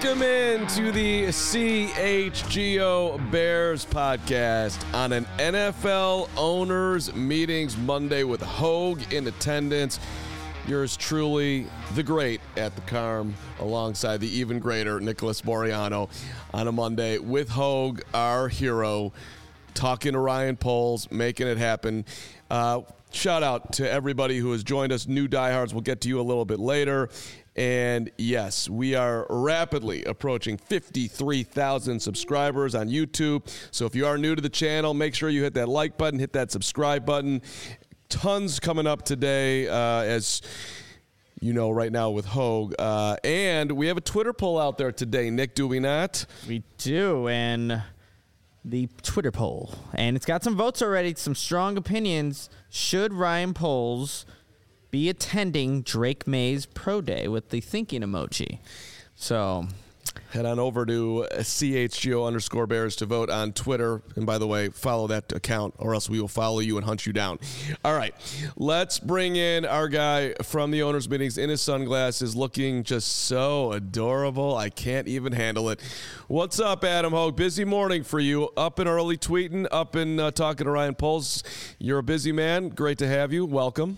Welcome in to the CHGO Bears podcast on an NFL Owners Meetings Monday with Hogue in attendance. Yours truly, the great at the Carm, alongside the even greater Nicholas Moriano on a Monday with Hogue, our hero, talking to Ryan Poles, making it happen. Shout out to everybody who has joined us, new diehards. We'll get to you a little bit later. And yes, we are rapidly approaching 53,000 subscribers on YouTube. So if you are new to the channel, make sure you hit that like button, hit that subscribe button. Tons coming up today, as you know, right now with Hogue. And we have a Twitter poll out there today, Nick, do we not? We do, and the Twitter poll. And it's got some votes already, some strong opinions. Should Ryan Poles be attending Drake May's Pro Day with the thinking emoji? So head on over to CHGO_Bears to vote on Twitter. And by the way, follow that account or else we will follow you and hunt you down. All right, let's bring in our guy from the owners' meetings in his sunglasses, looking just so adorable. I can't even handle it. What's up, Adam Hogue? Busy morning for you. Up and early tweeting, up and talking to Ryan Poles. You're a busy man. Great to have you. Welcome.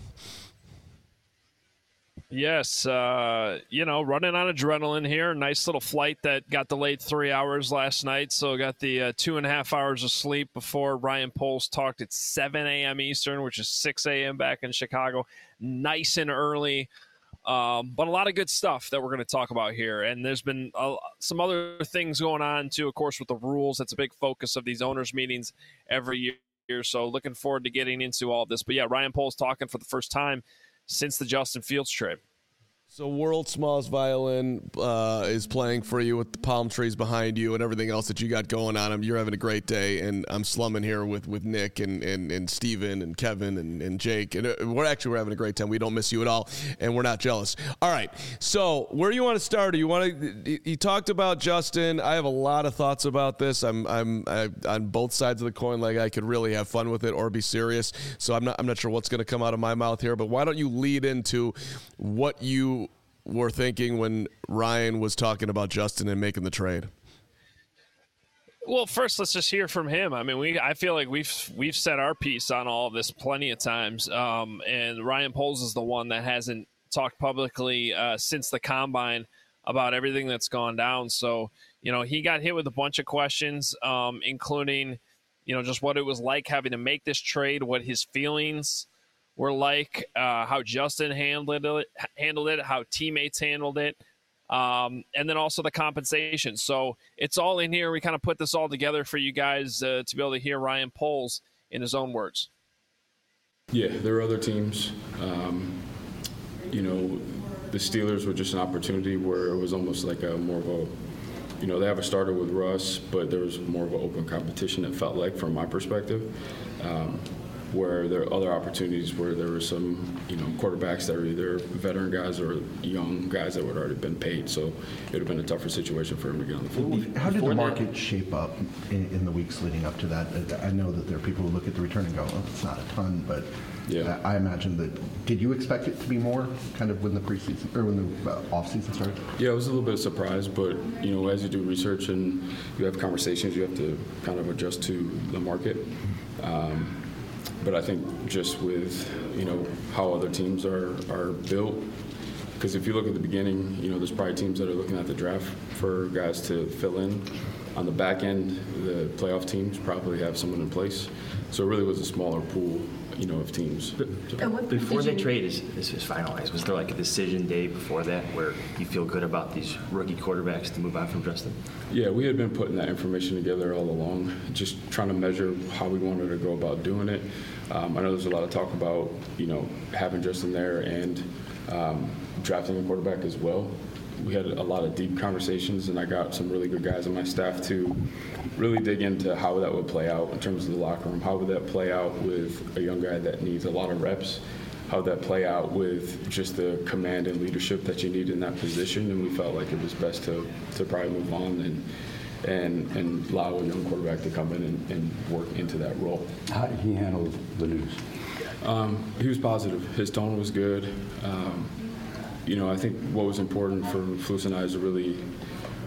Yes, running on adrenaline here. Nice little flight that got delayed 3 hours last night, so got the 2.5 hours of sleep before Ryan Poles talked at 7 a.m. Eastern, which is 6 a.m. back in Chicago. Nice and early, but a lot of good stuff that we're going to talk about here. And there's been some other things going on, too, of course, with the rules. That's a big focus of these owners' meetings every year, so looking forward to getting into all of this. But, yeah, Ryan Poles talking for the first time since the Justin Fields trade. So World's Smallest Violin is playing for you with the palm trees behind you and everything else that you got going on. You're having a great day, and I'm slumming here with Nick and Steven and Kevin and Jake. And we're having a great time. We don't miss you at all, and we're not jealous. All right, so where do you want to start? You talked about Justin. I have a lot of thoughts about this. I'm on both sides of the coin. Like, I could really have fun with it or be serious. So I'm not sure what's going to come out of my mouth here. But why don't you lead into what you were thinking when Ryan was talking about Justin and making the trade? Well, first, let's just hear from him. I mean, I feel like we've said our piece on all of this plenty of times, and Ryan Poles is the one that hasn't talked publicly since the Combine about everything that's gone down. So, he got hit with a bunch of questions, including, just what it was like having to make this trade, what his feelings were like, how Justin handled it, how teammates handled it, and then also the compensation. So it's all in here. We kind of put this all together for you guys to be able to hear Ryan Poles in his own words. Yeah, there are other teams. The Steelers were just an opportunity where it was almost like more of a, they have a starter with Russ, but there was more of an open competition, it felt like, from my perspective. Where there are other opportunities where there were some, quarterbacks that were either veteran guys or young guys that would already been paid. So it would have been a tougher situation for him to get on the field. How did the market shape up in the weeks leading up to that? I know that there are people who look at the return and go, oh, it's not a ton, but yeah. I imagine that. Did you expect it to be more kind of when the preseason or when the off season started? Yeah, it was a little bit of surprise, but as you do research and you have conversations, you have to kind of adjust to the market. But I think just with, how other teams are built, because if you look at the beginning, there's probably teams that are looking at the draft for guys to fill in. On the back end, the playoff teams probably have someone in place. So it really was a smaller pool, of teams. Before the trade is finalized, was there like a decision day before that where you feel good about these rookie quarterbacks to move on from Justin? Yeah, we had been putting that information together all along, just trying to measure how we wanted to go about doing it. I know there's a lot of talk about, having Justin there and drafting a quarterback as well. We had a lot of deep conversations, and I got some really good guys on my staff to really dig into how that would play out in terms of the locker room. How would that play out with a young guy that needs a lot of reps? How would that play out with just the command and leadership that you need in that position? And we felt like it was best to probably move on and allow a young quarterback to come in and work into that role. How did he handle the news? He was positive. His tone was good. I think what was important for Flus and I is to really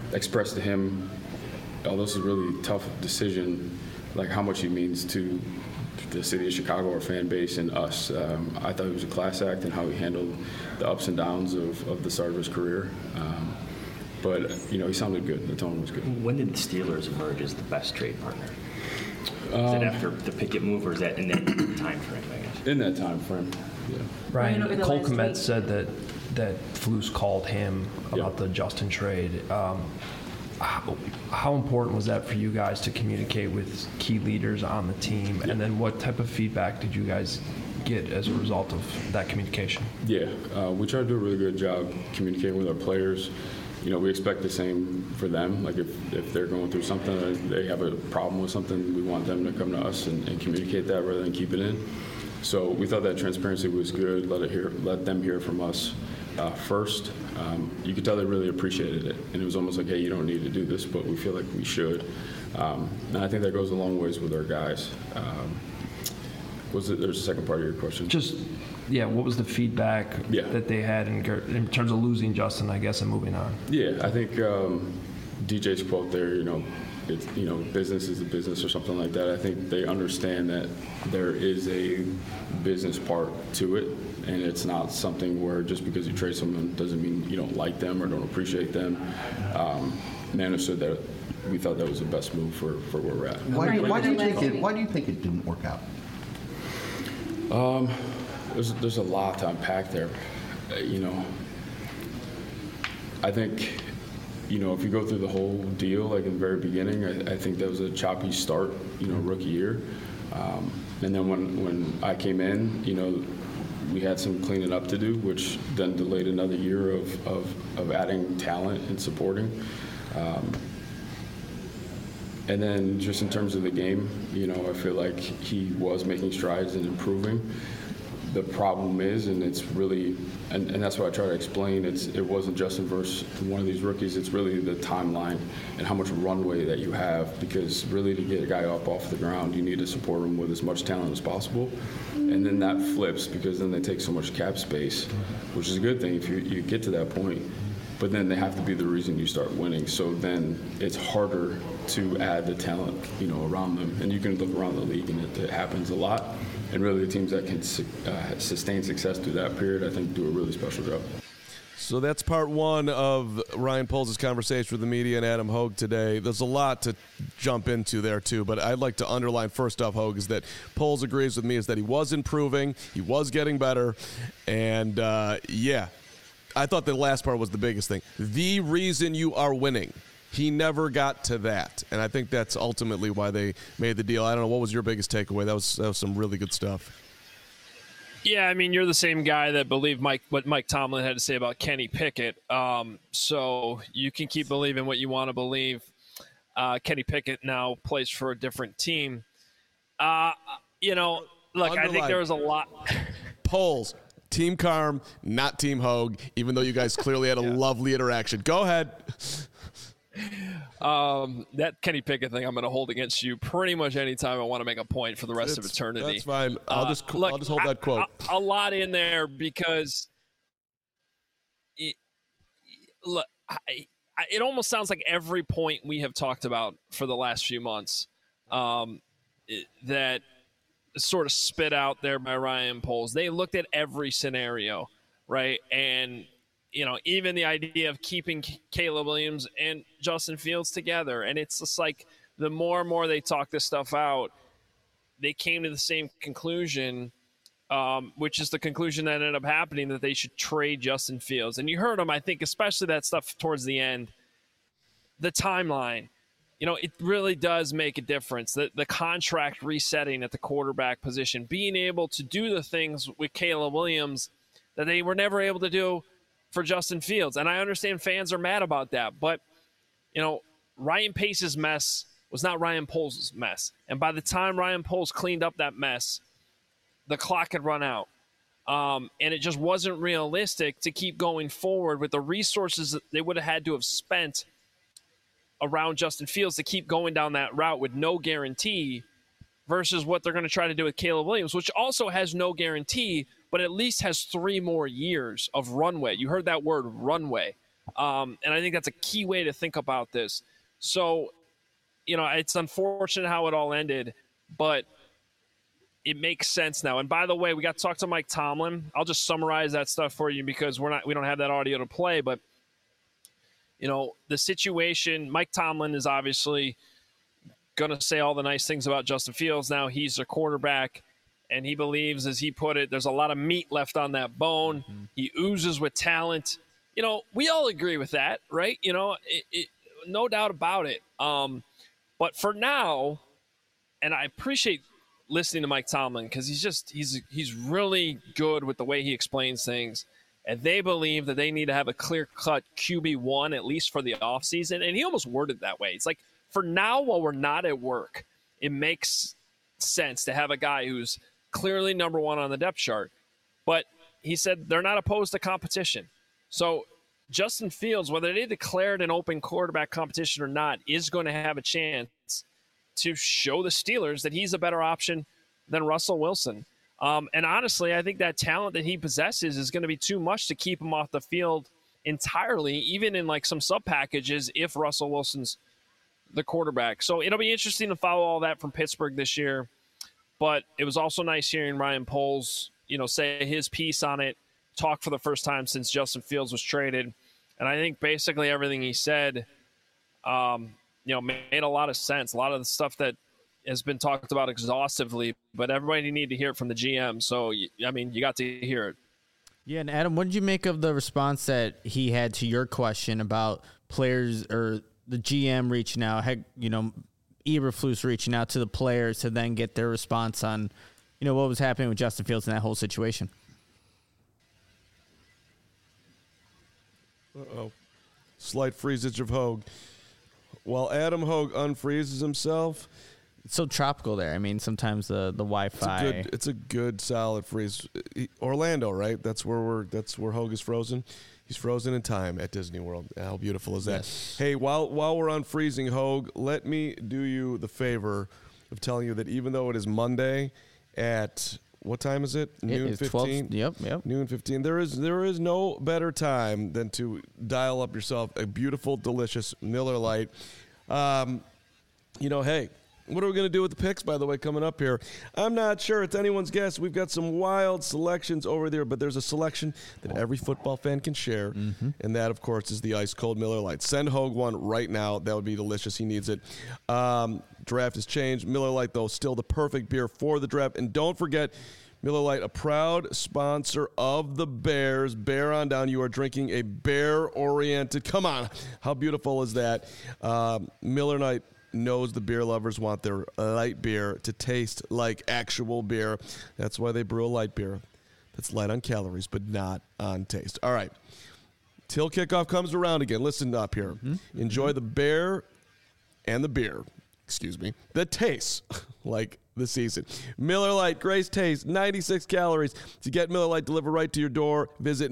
expressed to him, although this is a really tough decision, like how much he means to the city of Chicago, our fan base, and us. I thought he was a class act in how he handled the ups and downs of the start of his career. But, he sounded good. The tone was good. When did the Steelers emerge as the best trade partner? Is that after the Pickett move, or is that in that time frame, I guess? In that time frame, yeah. Ryan, Cole Kmet said that Flus called him about the Justin trade. How important was that for you guys to communicate with key leaders on the team? And then what type of feedback did you guys get as a result of that communication? Yeah, we try to do a really good job communicating with our players. We expect the same for them. Like if they're going through something or they have a problem with something, we want them to come to us and communicate that rather than keep it in. So we thought that transparency was good. Let them hear from us first. You could tell they really appreciated it, and it was almost like, hey, you don't need to do this, but we feel like we should. And I think that goes a long ways with our guys. There's a second part of your question? What was the feedback that they had in terms of losing Justin, I guess, and moving on? Yeah, I think DJ's quote there, it's, business is a business or something like that. I think they understand that there is a business part to it, and it's not something where just because you trade someone doesn't mean you don't like them or don't appreciate them. They understood that we thought that was the best move for where we're at. Why do you think it didn't work out? There's a lot to unpack there. I think, if you go through the whole deal, like in the very beginning, I think that was a choppy start, rookie year. And then when I came in, we had some cleaning up to do, which then delayed another year of adding talent and supporting. And then just in terms of the game, I feel like he was making strides and improving. The problem is, and it's really, and that's what I try to explain, it wasn't Justin versus one of these rookies, it's really the timeline and how much runway that you have, because really to get a guy up off the ground, you need to support him with as much talent as possible. And then that flips, because then they take so much cap space, which is a good thing if you get to that point. But then they have to be the reason you start winning. So then it's harder to add the talent, around them. And you can look around the league, and it happens a lot. And really, the teams that can sustain success through that period, I think, do a really special job. So that's part one of Ryan Poles' conversation with the media and Adam Hogue today. There's a lot to jump into there, too. But I'd like to underline, first off, Hogue, is that Poles agrees with me, is that he was improving, he was getting better. And, I thought the last part was the biggest thing. The reason you are winning. He never got to that, and I think that's ultimately why they made the deal. I don't know, what was your biggest takeaway? That was some really good stuff. Yeah, I mean, you're the same guy that believed what Mike Tomlin had to say about Kenny Pickett. So you can keep believing what you want to believe. Kenny Pickett now plays for a different team. Look, I think there was a lot. Poles, Team Carm, not Team Hogue, even though you guys clearly had a lovely interaction. Go ahead. That Kenny Pickett thing I'm going to hold against you pretty much anytime I want to make a point for the rest of eternity. That's fine. I'll just hold that quote. A lot in there because it almost sounds like every point we have talked about for the last few months that sort of spit out there by Ryan Poles. They looked at every scenario, right? And even the idea of keeping Caleb Williams and Justin Fields together. And it's just like the more and more they talk this stuff out, they came to the same conclusion, which is the conclusion that ended up happening, that they should trade Justin Fields. And you heard them, I think, especially that stuff towards the end, the timeline. It really does make a difference. The contract resetting at the quarterback position, being able to do the things with Caleb Williams that they were never able to do for Justin Fields. And I understand fans are mad about that. But, Ryan Pace's mess was not Ryan Poles' mess. And by the time Ryan Poles cleaned up that mess, the clock had run out. And it just wasn't realistic to keep going forward with the resources that they would have had to have spent around Justin Fields to keep going down that route with no guarantee versus what they're going to try to do with Caleb Williams, which also has no guarantee, but at least has 3 more years of runway. You heard that word, runway. And I think that's a key way to think about this. So, it's unfortunate how it all ended, but it makes sense now. And by the way, we got to talk to Mike Tomlin. I'll just summarize that stuff for you because we don't have that audio to play. But, the situation, Mike Tomlin is obviously going to say all the nice things about Justin Fields. Now he's a quarterback, and he believes, as he put it, there's a lot of meat left on that bone. Mm-hmm. He oozes with talent. We all agree with that, right? No doubt about it. But for now, and I appreciate listening to Mike Tomlin because he's really good with the way he explains things. And they believe that they need to have a clear-cut QB1, at least for the offseason. And he almost worded that way. It's like, for now, while we're not at work, it makes sense to have a guy who's clearly number one on the depth chart. But he said they're not opposed to competition. So Justin Fields, whether they declared an open quarterback competition or not, is going to have a chance to show the Steelers that he's a better option than Russell Wilson. And honestly, I think that talent that he possesses is going to be too much to keep him off the field entirely, even in like some sub packages if Russell Wilson's the quarterback. So it'll be interesting to follow all that from Pittsburgh this year. But it was also nice hearing Ryan Poles, say his piece on it, talk for the first time since Justin Fields was traded. And I think basically everything he said, made a lot of sense. A lot of the stuff that has been talked about exhaustively, but everybody needed to hear it from the GM. So, you got to hear it. Yeah, and Adam, what did you make of the response that he had to your question about players or the GM reaching out, Eberflus reaching out to the players to then get their response on, what was happening with Justin Fields in that whole situation? Uh-oh. Slight freezage of Hogue. While Adam Hogue unfreezes himself. It's so tropical there. Sometimes the Wi-Fi. It's a good solid freeze. Orlando, right? That's where Hogue is frozen. He's frozen in time at Disney World. How beautiful is that? Yes. Hey, while we're unfreezing Hogue, let me do you the favor of telling you that even though it is Monday at what time is it? Noon 15. Yep. Noon 15. There is no better time than to dial up yourself a beautiful, delicious Miller Lite. Hey. What are we going to do with the picks, by the way, coming up here? I'm not sure. It's anyone's guess. We've got some wild selections over there, but there's a selection that every football fan can share, and that, of course, is the ice-cold Miller Lite. Send Hogue one right now. That would be delicious. He needs it. Draft has changed. Miller Lite, though, still the perfect beer for the draft. And don't forget, Miller Lite, a proud sponsor of the Bears. Bear on down. You are drinking a bear-oriented. Come on. How beautiful is that? Miller Lite knows the beer lovers want their light beer to taste like actual beer. That's why they brew a light beer that's light on calories but not on taste. All right. Till kickoff comes around again. Listen up here. Enjoy the bear and the beer. Excuse me. That tastes like the season. Miller Lite, great taste, 96 calories. To get Miller Lite delivered right to your door, visit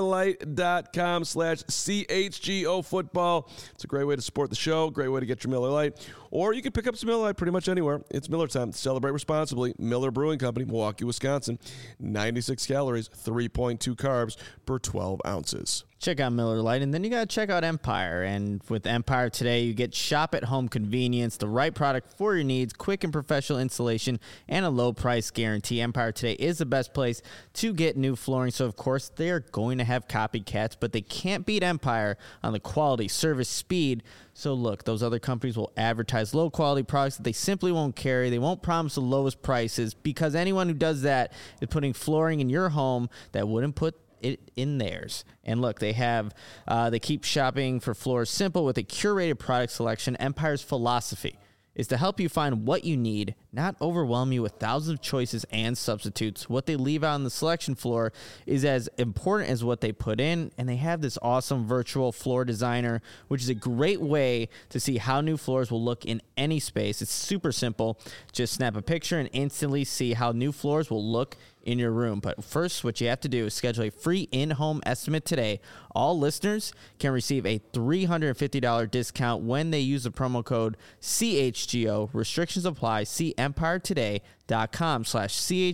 MillerLite.com/CHGO football. It's a great way to support the show, great way to get your Miller Lite. Or you can pick up some Miller Lite pretty much anywhere. It's Miller time. Celebrate responsibly. Miller Brewing Company, Milwaukee, Wisconsin. 96 calories, 3.2 carbs per 12 ounces. Check out Miller Lite, and then you got to check out Empire. And with Empire today, you get shop-at-home convenience, the right product for your needs, quick and professional installation, and a low-price guarantee. Empire today is the best place to get new flooring. So, of course, they're going to have copycats, but they can't beat Empire on the quality, service, speed. So, look, those other companies will advertise low-quality products that they simply won't carry. They won't promise the lowest prices because anyone who does that is putting flooring in your home that wouldn't put it in theirs. And look, they keep shopping for floors simple with a curated product selection. Empire's philosophy is to help you find what you need, not overwhelm you with thousands of choices and substitutes. What they leave out on the selection floor is as important as what they put in, and they have this awesome virtual floor designer, which is a great way to see how new floors will look in any space. It's super simple. Just snap a picture and instantly see how new floors will look in your room. But first, what you have to do is schedule a free in-home estimate today. All listeners can receive a $350 discount when they use the promo code CHGO. Restrictions apply. See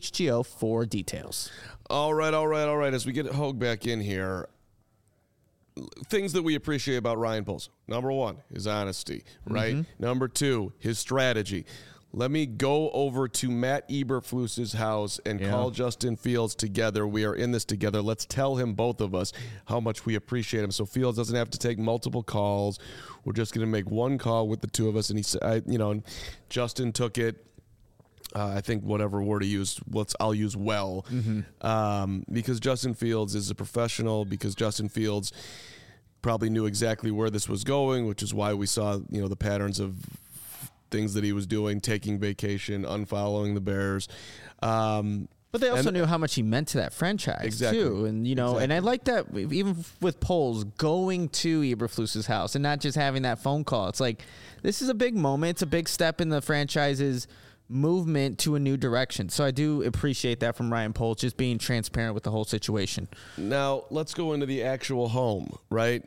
EmpireToday.com/CHGO for details. All right. As we get Hogue back in here, things that we appreciate about Ryan Poles. Number one, his honesty, right? Number two, his strategy. Let me go over to Matt Eberflus's house and call Justin Fields together. We are in this together. Let's tell him, both of us, how much we appreciate him. So Fields doesn't have to take multiple calls. We're just going to make one call with the two of us. And he said, Justin took it. I think whatever word he used, I'll use well, because Justin Fields is a professional. Because Justin Fields probably knew exactly where this was going, which is why we saw the patterns of things that he was doing, taking vacation, unfollowing the Bears. But they also knew how much he meant to that franchise, too. And, and I like that even with Poles going to Eberflus's house and not just having that phone call. It's like, this is a big moment. It's a big step in the franchise's movement to a new direction. So I do appreciate that from Ryan Poles, just being transparent with the whole situation. Now, let's go into the actual home, right?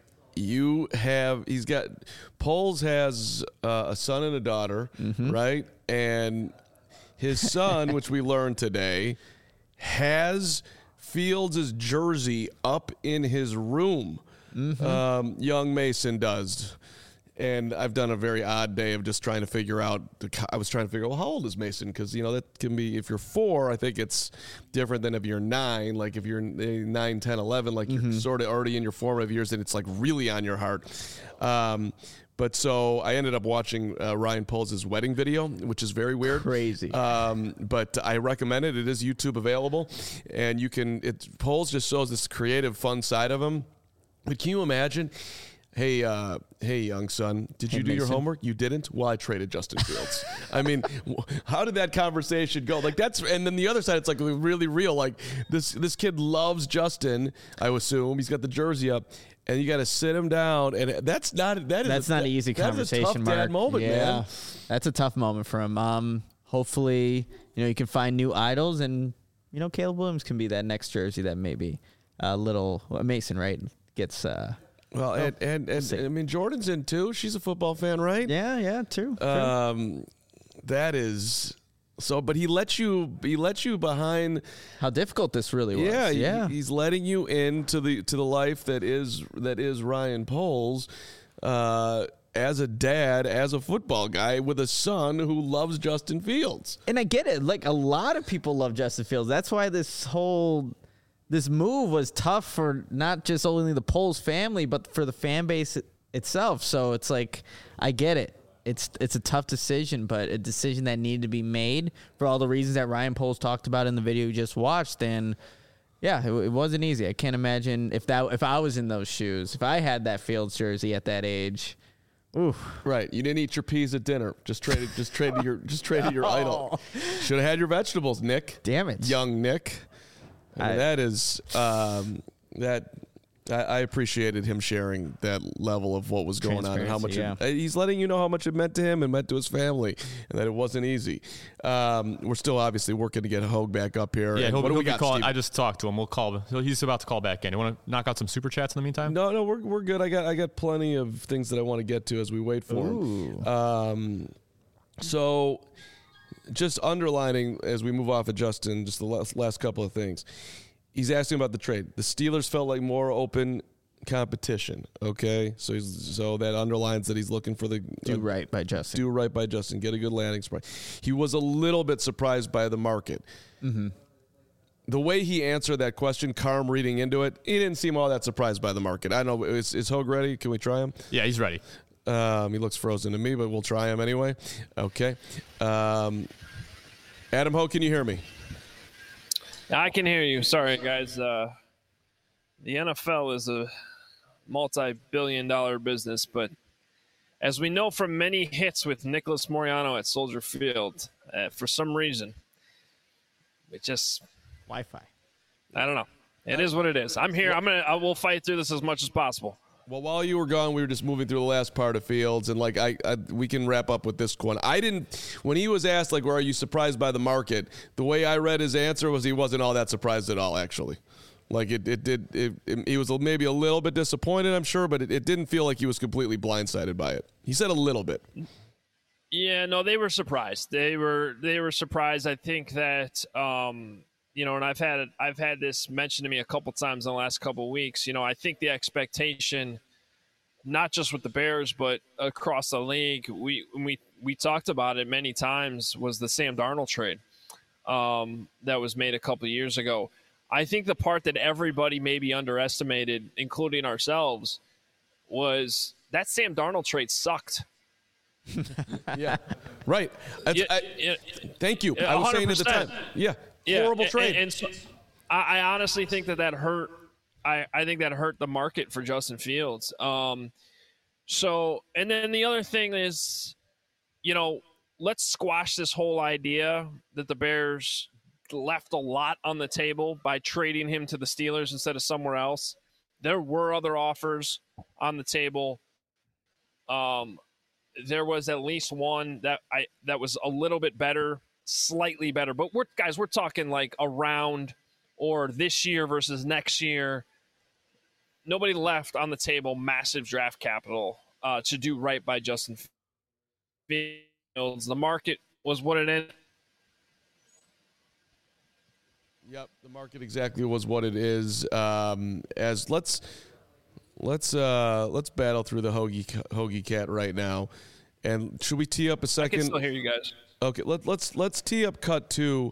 Poles has a son and a daughter, right? And his son, which we learned today, has Fields' jersey up in his room. Young Mason does. And I've done a very odd day of just trying to figure out. I was trying to figure out, well, how old is Mason? Because, that can be, if you're 4, I think it's different than if you're 9. Like if you're 9, 10, 11, like you're sort of already in your formative years and it's like really on your heart. But so I ended up watching Ryan Poles' wedding video, which is very weird. Crazy. But I recommend it. It is YouTube available. And Poles just shows this creative, fun side of him. But can you imagine? Hey, young son, did you do your homework? You didn't? Well, I traded Justin Fields. I mean, how did that conversation go? Like and then the other side, it's like really real. Like this kid loves Justin, I assume. He's got the jersey up, and you got to sit him down, and that's not an easy conversation. That's a tough dad moment, man. That's a tough moment for him. Hopefully, you can find new idols, and Caleb Williams can be that next jersey that maybe little Mason, right, gets. Well, and I mean, Jordan's in too. She's a football fan, right? Yeah, true. That is so, but he let you behind how difficult this really was. Yeah. He's letting you into the life that is Ryan Poles, as a dad, as a football guy with a son who loves Justin Fields. And I get it. Like, a lot of people love Justin Fields. That's why this move was tough for not just only the Poles family, but for the fan base itself. So it's like, I get it. It's a tough decision, but a decision that needed to be made for all the reasons that Ryan Poles talked about in the video you just watched. And yeah, it wasn't easy. I can't imagine if I was in those shoes, if I had that Fields jersey at that age. Oof. Right, you didn't eat your peas at dinner. Just traded your idol. Should have had your vegetables, Nick. Damn it, young Nick. That is I appreciated him sharing that level of what was going on and how much he's letting you know how much it meant to him and meant to his family, and that it wasn't easy. We're still obviously working to get Hogue back up here. Yeah, he'll be calling. I just talked to him. We'll call. He's about to call back in. You want to knock out some super chats in the meantime? No, we're good. I got plenty of things that I want to get to as we wait for him. So, just underlining as we move off of Justin, just the last couple of things. He's asking about the trade. The Steelers felt like more open competition. Okay, so that underlines that he's looking for do right by Justin. Do right by Justin. Get a good landing spot. He was a little bit surprised by the market. Mm-hmm. The way he answered that question, Carm reading into it, he didn't seem all that surprised by the market. I don't know. Is Hogue ready? Can we try him? Yeah, he's ready. He looks frozen to me, but we'll try him anyway. Okay. Adam Hogue, can you hear me? I can hear you. Sorry, guys. The NFL is a multi-billion-dollar business, but as we know from many hits with Nicholas Moreano at Soldier Field, for some reason, it just Wi-Fi. I don't know. It is what it is. I'm here. I will fight through this as much as possible. Well, while you were gone, we were just moving through the last part of Fields, and we can wrap up with this one. When he was asked, like, are you surprised by the market? The way I read his answer was he wasn't all that surprised at all, actually. Like he was maybe a little bit disappointed, I'm sure, but it didn't feel like he was completely blindsided by it. He said a little bit. Yeah, no, they were surprised. They were surprised. I think that and I've had this mentioned to me a couple times in the last couple of weeks. I think the expectation, not just with the Bears, but across the league, we talked about it many times, was the Sam Darnold trade that was made a couple of years ago. I think the part that everybody maybe underestimated, including ourselves, was that Sam Darnold trade sucked. Yeah, right. Thank you. I was saying at the time. Yeah, horrible trade. And so I honestly think that hurt. I think that hurt the market for Justin Fields. So, and then the other thing is, let's squash this whole idea that the Bears left a lot on the table by trading him to the Steelers instead of somewhere else. There were other offers on the table. There was at least one that was a little bit better, slightly better. But we're talking like around or this year versus next year. Nobody left on the table massive draft capital to do right by Justin Fields. The market was what it is. Yep, the market exactly was what it is. As let's battle through the Hoagie Cat right now, and should we tee up a second? I can still hear you guys. Okay, let's tee up cut 2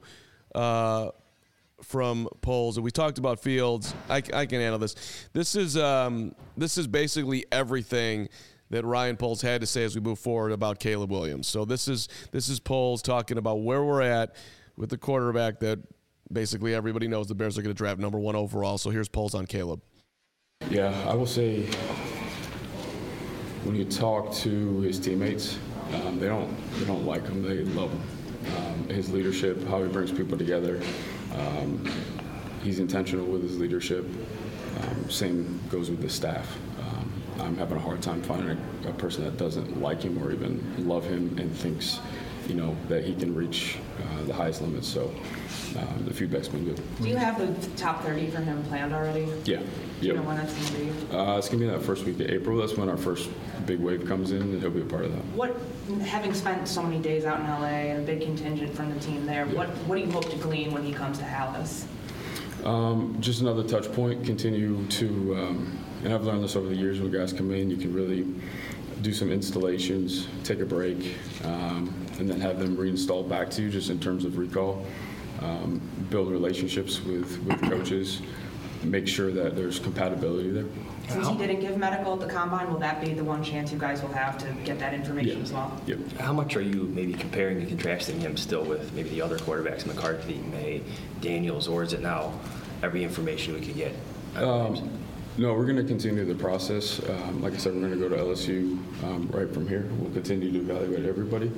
from polls, and we talked about Fields. I can handle this. This is basically everything that Ryan Poles had to say as we move forward about Caleb Williams. So this is Poles talking about where we're at with the quarterback that basically everybody knows the Bears are going to draft number 1 overall. So here's Poles on Caleb. Yeah, I will say when you talk to his teammates, they don't like him. They love him. His leadership, how he brings people together. He's intentional with his leadership. Same goes with the staff. I'm having a hard time finding a person that doesn't like him or even love him and thinks, that he can reach the highest limits. So the feedback's been good. Do you have the top 30 for him planned already? Yeah. Do you know when that's going to be? It's going to be that first week of April. That's when our first big wave comes in, and he'll be a part of that. Having spent so many days out in LA and a big contingent from the team there, what do you hope to glean when he comes to Dallas? Just another touch point. Continue to, and I've learned this over the years when guys come in, you can really do some installations, take a break, and then have them reinstalled back to you just in terms of recall. Build relationships with coaches, make sure that there's compatibility there. Since he didn't give medical at the combine, will that be the one chance you guys will have to get that information as well? Yep. How much are you maybe comparing and contrasting him still with maybe the other quarterbacks, McCarthy, May, Daniels, or is it now every information we could get? No, we're going to continue the process. Like I said, we're going to go to LSU right from here. We'll continue to evaluate everybody.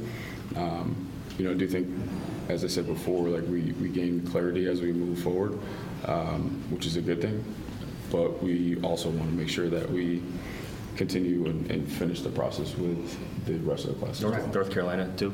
I do think, as I said before, like we gain clarity as we move forward, which is a good thing. But we also want to make sure that we continue and finish the process with the rest of the class. North Carolina, too?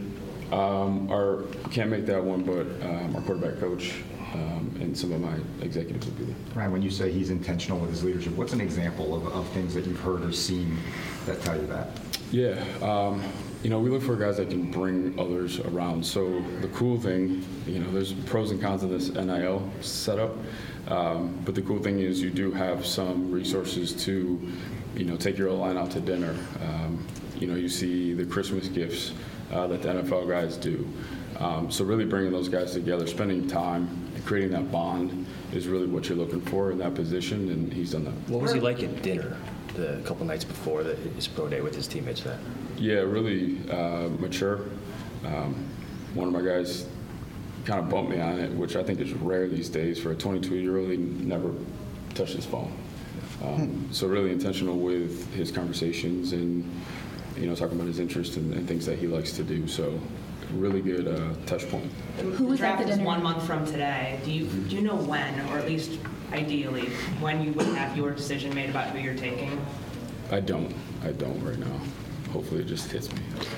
Can't make that one, but our quarterback coach and some of my executives will be there. Ryan, when you say he's intentional with his leadership, what's an example of things that you've heard or seen that tell you that? Yeah. We look for guys that can bring others around. So the cool thing, there's pros and cons of this NIL setup. But the cool thing is you do have some resources to, take your line out to dinner. You see the Christmas gifts that the NFL guys do. So really bringing those guys together, spending time, creating that bond is really what you're looking for in that position, and he's done that. What was he like at dinner the couple nights before his pro day with his teammates then? Yeah, really mature. One of my guys kind of bumped me on it, which I think is rare these days for a 22-year-old. He never touched his phone. So really intentional with his conversations and, talking about his interests and things that he likes to do. So really good touch point. Who was at the dinner? 1 month from today. Do you know when, or at least ideally, when you would have your decision made about who you're taking? I don't right now. Hopefully it just hits me.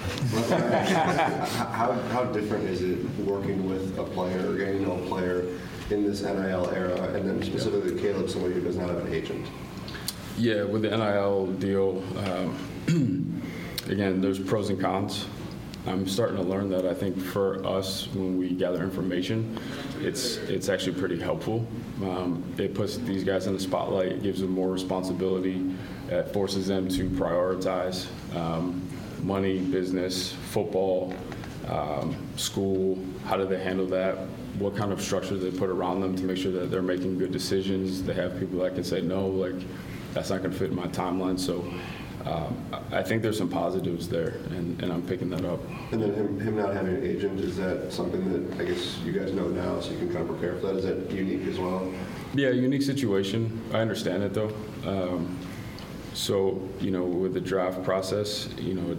How different is it working with a player, getting to know a player in this NIL era, and then specifically Caleb, somebody who does not have an agent? Yeah, with the NIL deal, again, there's pros and cons. I'm starting to learn that I think for us, when we gather information, it's actually pretty helpful. It puts these guys in the spotlight, it gives them more responsibility, it forces them to prioritize money, business, football, school. How do they handle that? What kind of structure they put around them to make sure that they're making good decisions. They have people that can say, no, like, that's not going to fit in my timeline. So I think there's some positives there, and I'm picking that up. And then him not having an agent, is that something that I guess you guys know now, so you can kind of prepare for that? Is that unique as well? Yeah, unique situation. I understand it, though. So, with the draft process,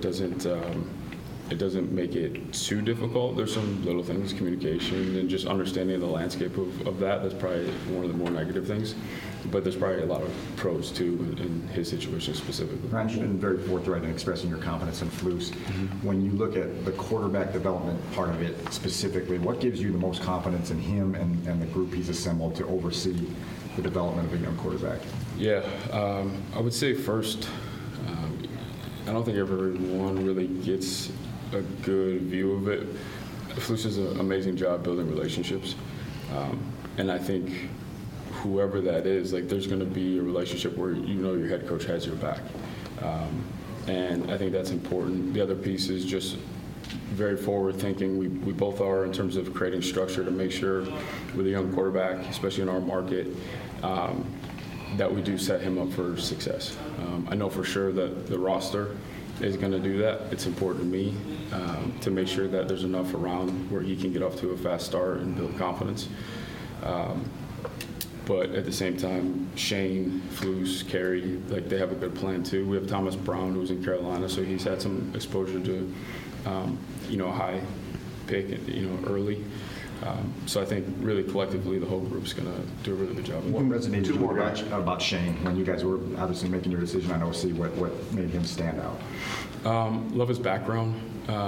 it doesn't make it too difficult. There's some little things, communication, and just understanding the landscape of that. That's probably one of the more negative things. But there's probably a lot of pros, too, in his situation specifically. Ryan, you've been very forthright in expressing your confidence in Flus. When you look at the quarterback development part of it specifically, what gives you the most confidence in him and the group he's assembled to oversee the development of a young quarterback? Yeah, I would say first, I don't think everyone really gets a good view of it. Flus does an amazing job building relationships, and I think whoever that is, like, there's going to be a relationship where your head coach has your back, and I think that's important. The other piece is just very forward thinking. We both are in terms of creating structure to make sure with a young quarterback, especially in our market, that we do set him up for success. I know for sure that the roster is going to do that. It's important to me to make sure that there's enough around where he can get off to a fast start and build confidence. But at the same time, Shane, Flus, Kerry, like, they have a good plan too. We have Thomas Brown, who's in Carolina, so he's had some exposure to, a high pick, early. So I think really collectively the whole group's going to do a really good job. What resonated you about Shane when you guys were obviously making your decision on OC? What made him stand out? Love his background.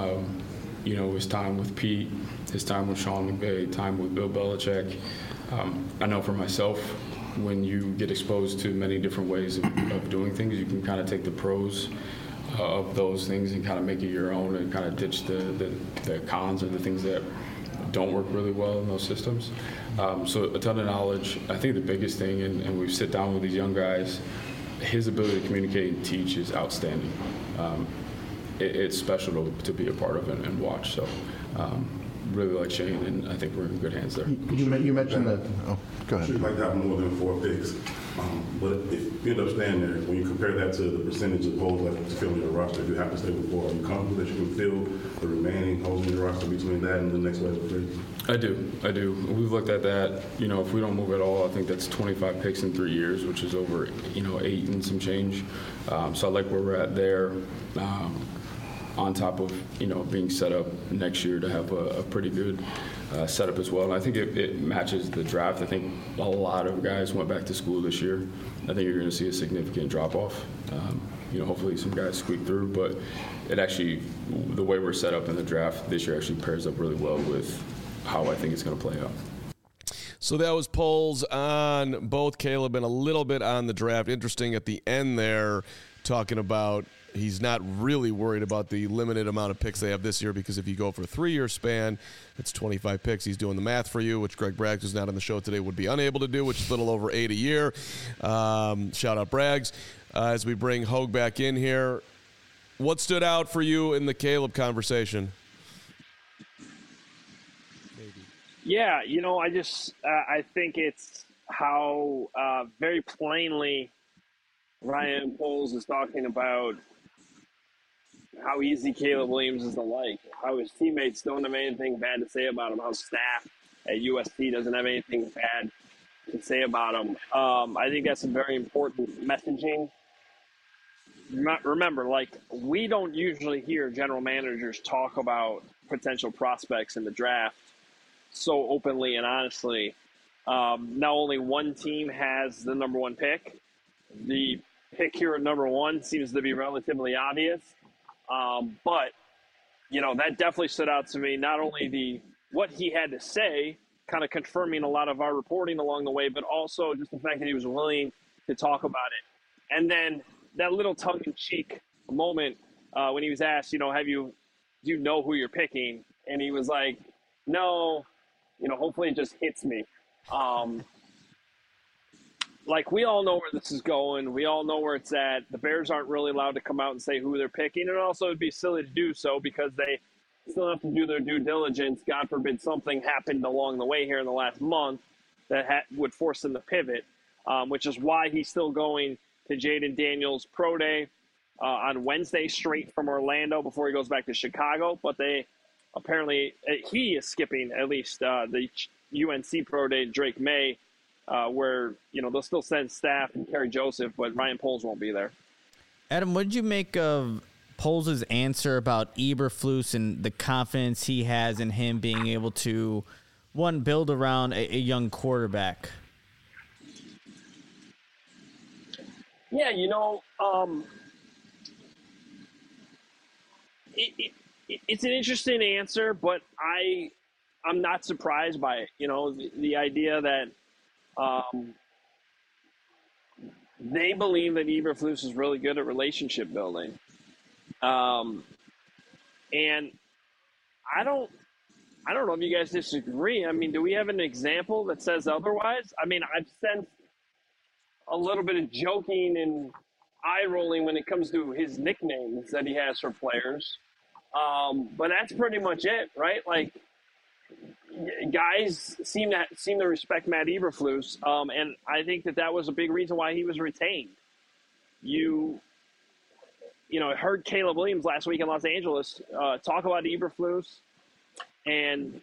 His time with Pete, his time with Sean McVay, time with Bill Belichick. I know for myself, when you get exposed to many different ways of doing things, you can kind of take the pros of those things and kind of make it your own and kind of ditch the cons or the things that don't work really well in those systems. So a ton of knowledge. I think the biggest thing, and we sit down with these young guys, his ability to communicate and teach is outstanding. It's special to be a part of and watch. So really like Shane, and I think we're in good hands there. You mentioned that. Oh, go ahead. You'd like to have more than 4 picks. But if you end up staying there, when you compare that to the percentage of holes left to fill in your roster, if you have to stay with 4, are you comfortable that you can fill the remaining holes in your roster between that and the next wave of picks? I do. We've looked at that. If we don't move at all, I think that's 25 picks in 3 years, which is over, 8 and some change. So I like where we're at there. On top of, being set up next year to have a pretty good setup as well. And I think it matches the draft. I think a lot of guys went back to school this year. I think you're going to see a significant drop-off. Hopefully some guys squeak through, but it actually, the way we're set up in the draft this year actually pairs up really well with how I think it's going to play out. So that was polls on both Caleb and a little bit on the draft. Interesting at the end there, talking about he's not really worried about the limited amount of picks they have this year, because if you go for a 3-year span, it's 25 picks. He's doing the math for you, which Greg Braggs, who's not on the show today, would be unable to do, which is a little over 8 a year. Shout out Braggs. As we bring Hogue back in here, what stood out for you in the Caleb conversation? Yeah, I think it's how very plainly Ryan Poles is talking about how easy Caleb Williams is to like, how his teammates don't have anything bad to say about him, how staff at USC doesn't have anything bad to say about him. I think that's a very important messaging. Remember, we don't usually hear general managers talk about potential prospects in the draft so openly and honestly. Now only one team has the number 1 pick. The pick here at number 1 seems to be relatively obvious. But, that definitely stood out to me. Not only what he had to say, kind of confirming a lot of our reporting along the way, but also just the fact that he was willing to talk about it. And then that little tongue-in-cheek moment when he was asked, have you do you know who you're picking? And he was like, no, hopefully it just hits me. Like, we all know where this is going. We all know where it's at. The Bears aren't really allowed to come out and say who they're picking. And also it'd be silly to do so because they still have to do their due diligence. God forbid something happened along the way here in the last month that would force them to pivot, which is why he's still going to Jaden Daniels' pro day on Wednesday straight from Orlando before he goes back to Chicago. But he is skipping at least the UNC pro day, Drake May, where, they'll still send staff and Kerry Joseph, but Ryan Poles won't be there. Adam, what did you make of Poles' answer about Eberflus and the confidence he has in him being able to, one, build around a young quarterback? Yeah, it's an interesting answer, but I'm not surprised by it. The idea that they believe that Eberflus is really good at relationship building. And I don't know if you guys disagree. I mean, do we have an example that says otherwise? I mean, I've sensed a little bit of joking and eye rolling when it comes to his nicknames that he has for players. But that's pretty much it, right? Like, guys seem to respect Matt Eberflus, and I think that was a big reason why he was retained. I heard Caleb Williams last week in Los Angeles talk about Eberflus, and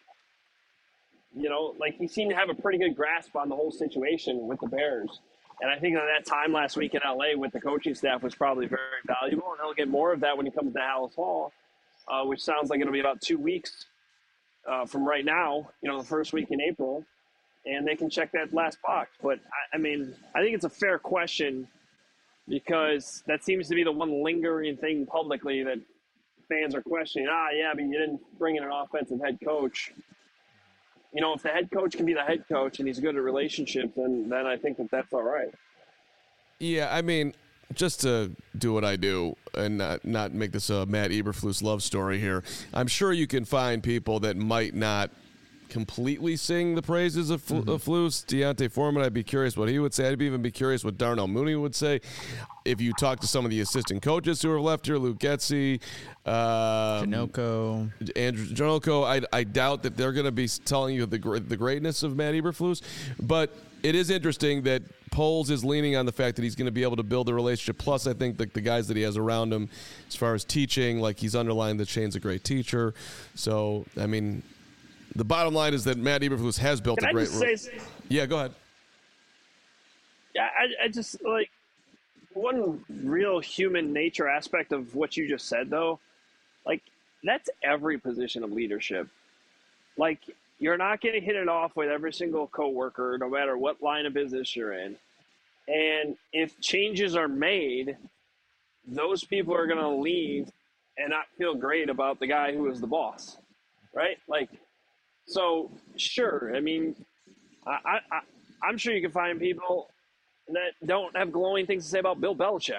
he seemed to have a pretty good grasp on the whole situation with the Bears. And I think that time last week in LA with the coaching staff was probably very valuable, and he'll get more of that when he comes to Halas Hall, which sounds like it'll be about 2 weeks from right now, the first week in April, and they can check that last box. But, I think it's a fair question because that seems to be the one lingering thing publicly that fans are questioning. Yeah, but you didn't bring in an offensive head coach. If the head coach can be the head coach and he's good at relationships, then I think that's all right. Yeah, I mean, just to do what I do and not make this a Matt Eberflus love story here, I'm sure you can find people that might not completely sing the praises of Flus. Deontay Foreman, I'd be curious what he would say. I'd even be curious what Darnell Mooney would say. If you talk to some of the assistant coaches who are left here, Luke Getsy, Janocko, Andrew Janocko, I doubt that they're going to be telling you the greatness of Matt Eberflus. But it is interesting that Poles is leaning on the fact that he's going to be able to build a relationship. Plus, I think that the guys that he has around him, as far as teaching, like he's underlined that Shane's a great teacher. So, I mean, the bottom line is that Matt Eberflus has built a great relationship. Yeah, go ahead. Yeah, I just, one real human nature aspect of what you just said, though, that's every position of leadership. You're not going to hit it off with every single coworker, no matter what line of business you're in. And if changes are made, those people are going to leave and not feel great about the guy who is the boss, right? So, sure, I mean, I'm sure you can find people that don't have glowing things to say about Bill Belichick,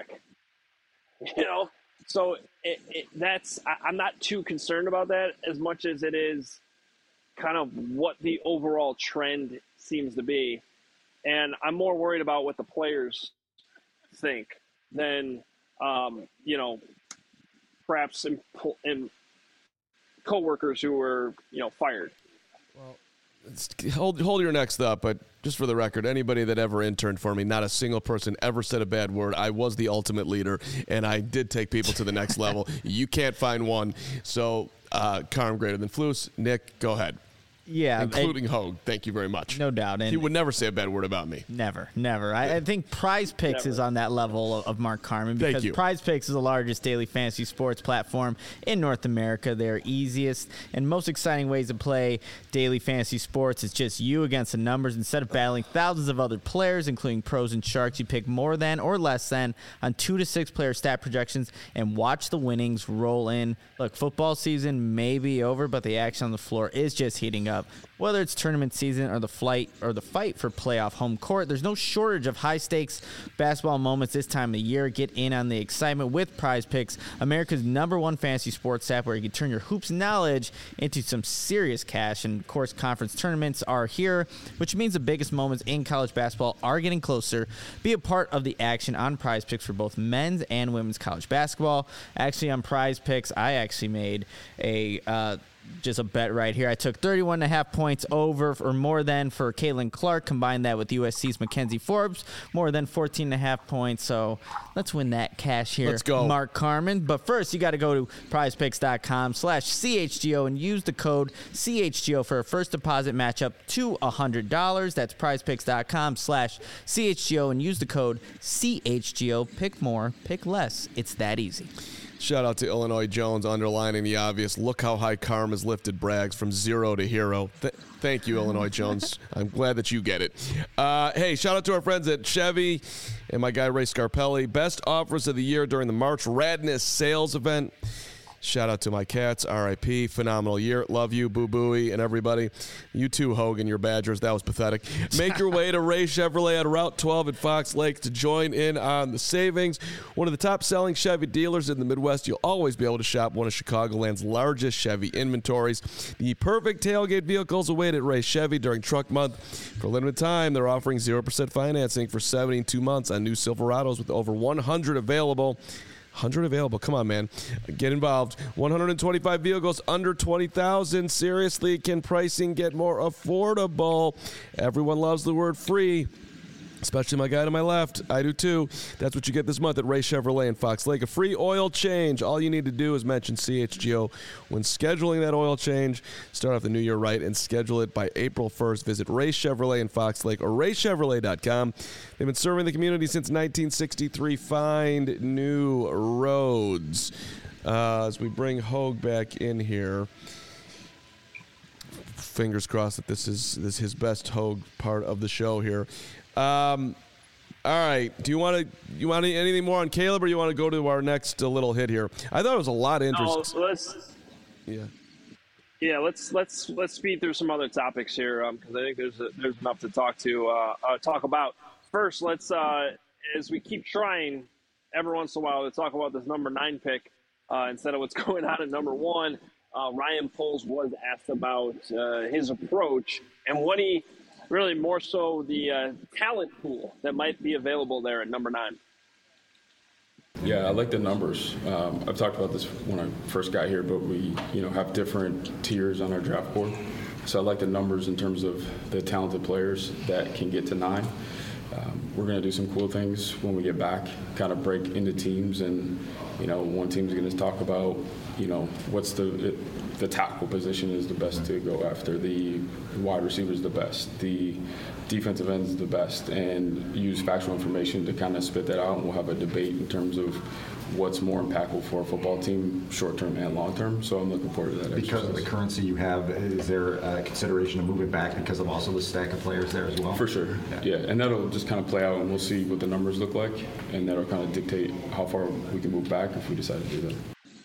So I'm not too concerned about that as much as it is kind of what the overall trend seems to be. And I'm more worried about what the players think than, perhaps in coworkers who were, fired. Well, hold your next thought, but just for the record, anybody that ever interned for me, not a single person ever said a bad word. I was the ultimate leader, and I did take people to the next level. You can't find one. So, Carm greater than Flus. Nick, go ahead. Yeah. Including Hogue. Thank you very much. No doubt. And he would never say a bad word about me. Never. I think Prize Picks is on that level of Mark Carman because Prize Picks is the largest daily fantasy sports platform in North America. Their easiest and most exciting ways to play daily fantasy sports is just you against the numbers. Instead of battling thousands of other players, including pros and sharks, you pick more than or less than on 2 to 6 player stat projections and watch the winnings roll in. Look, football season may be over, but the action on the floor is just heating up. matchup. Whether it's tournament season or the fight for playoff home court, there's no shortage of high-stakes basketball moments this time of the year. Get in on the excitement with Prize Picks, America's #1 fantasy sports app, where you can turn your hoops knowledge into some serious cash. And, of course, conference tournaments are here, which means the biggest moments in college basketball are getting closer. Be a part of the action on Prize Picks for both men's and women's college basketball. Actually, on Prize Picks, I actually made just a bet right here. I took 31.5 points over or more than for Caitlin Clark. Combine that with USC's Mackenzie Forbes, more than 14.5 points. So let's win that cash here. Let's go, Mark Carman. But first, you got to go to prizepicks.com/CHGO and use the code CHGO for a first deposit matchup to $100. That's prizepicks.com/CHGO and use the code CHGO. Pick more, pick less. It's that easy. Shout out to Illinois Jones underlining the obvious. Look how high Karma's lifted Braggs from 0 to hero. Thank you, Illinois Jones. I'm glad that you get it. Hey, shout out to our friends at Chevy and my guy Ray Scarpelli. Best offers of the year during the March Radness sales event. Shout out to my cats, RIP, phenomenal year. Love you, Boo Booey, and everybody. You too, Hogan, your Badgers. That was pathetic. Make your way to Ray Chevrolet on Route 12 at Fox Lake to join in on the savings. One of the top-selling Chevy dealers in the Midwest. You'll always be able to shop one of Chicagoland's largest Chevy inventories. The perfect tailgate vehicles await at Ray Chevy during Truck Month. For a limited time, they're offering 0% financing for 72 months on new Silverados with over 100 available. 100 available. Come on, man. Get involved. 125 vehicles under $20,000. Seriously, can pricing get more affordable? Everyone loves the word free, especially my guy to my left. I do too. That's what you get this month at Ray Chevrolet in Fox Lake. A free oil change. All you need to do is mention CHGO when scheduling that oil change. Start off the new year right and schedule it by April 1st. Visit Ray Chevrolet in Fox Lake or raychevrolet.com. They've been serving the community since 1963. Find new roads. As we bring Hogue back in here, fingers crossed that this is his best Hogue part of the show here. All right. Do you want anything more on Caleb, or you want to go to our next little hit here? I thought it was a lot of interest. Let's speed through some other topics here because I think there's enough to talk about. First, let's as we keep trying every once in a while to talk about this number 9 pick instead of what's going on at number 1. Ryan Poles was asked about his approach and what he. Really more so the talent pool that might be available there at number 9. Yeah, I like the numbers. I've talked about this when I first got here, but we have different tiers on our draft board. So I like the numbers in terms of the talented players that can get to 9. We're going to do some cool things when we get back, kind of break into teams, and one team's going to talk about what's the tackle position is the best to go after, the wide receiver is the best, the defensive end is the best, and use factual information to kind of spit that out, and we'll have a debate in terms of what's more impactful for a football team, short-term and long-term. So I'm looking forward to that. Because of the currency you have, is there a consideration to move it back because of also the stack of players there as well? For sure, yeah. And that'll just kind of play out, and we'll see what the numbers look like, and that'll kind of dictate how far we can move back if we decide to do that.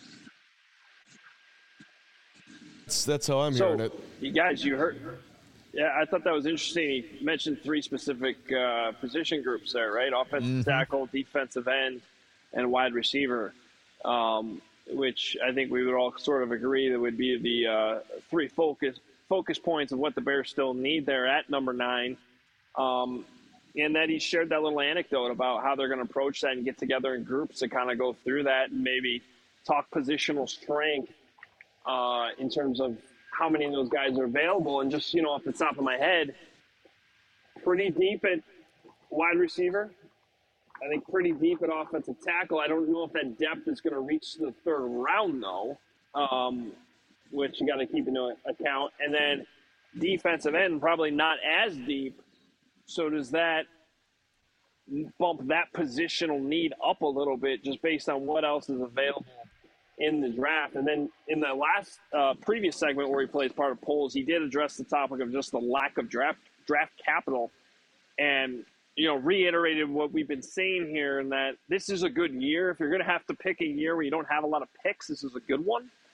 That's how I'm hearing it. You guys, you heard. Yeah, I thought that was interesting. He mentioned 3 specific position groups there, right? Offensive tackle, defensive end, and wide receiver, which I think we would all sort of agree that would be the 3 focus points of what the Bears still need there at number 9. And that he shared that little anecdote about how they're going to approach that and get together in groups to kind of go through that and maybe talk positional strength in terms of how many of those guys are available. And just, off the top of my head, pretty deep at wide receiver. I think pretty deep at offensive tackle. I don't know if that depth is going to reach the 3rd round, though, which you got to keep into account. And then defensive end, probably not as deep. So does that bump that positional need up a little bit just based on what else is available in the draft? And then in the last previous segment where he plays part of polls, he did address the topic of just the lack of draft capital and, reiterated what we've been saying here, and that this is a good year. If you're going to have to pick a year where you don't have a lot of picks, this is a good one.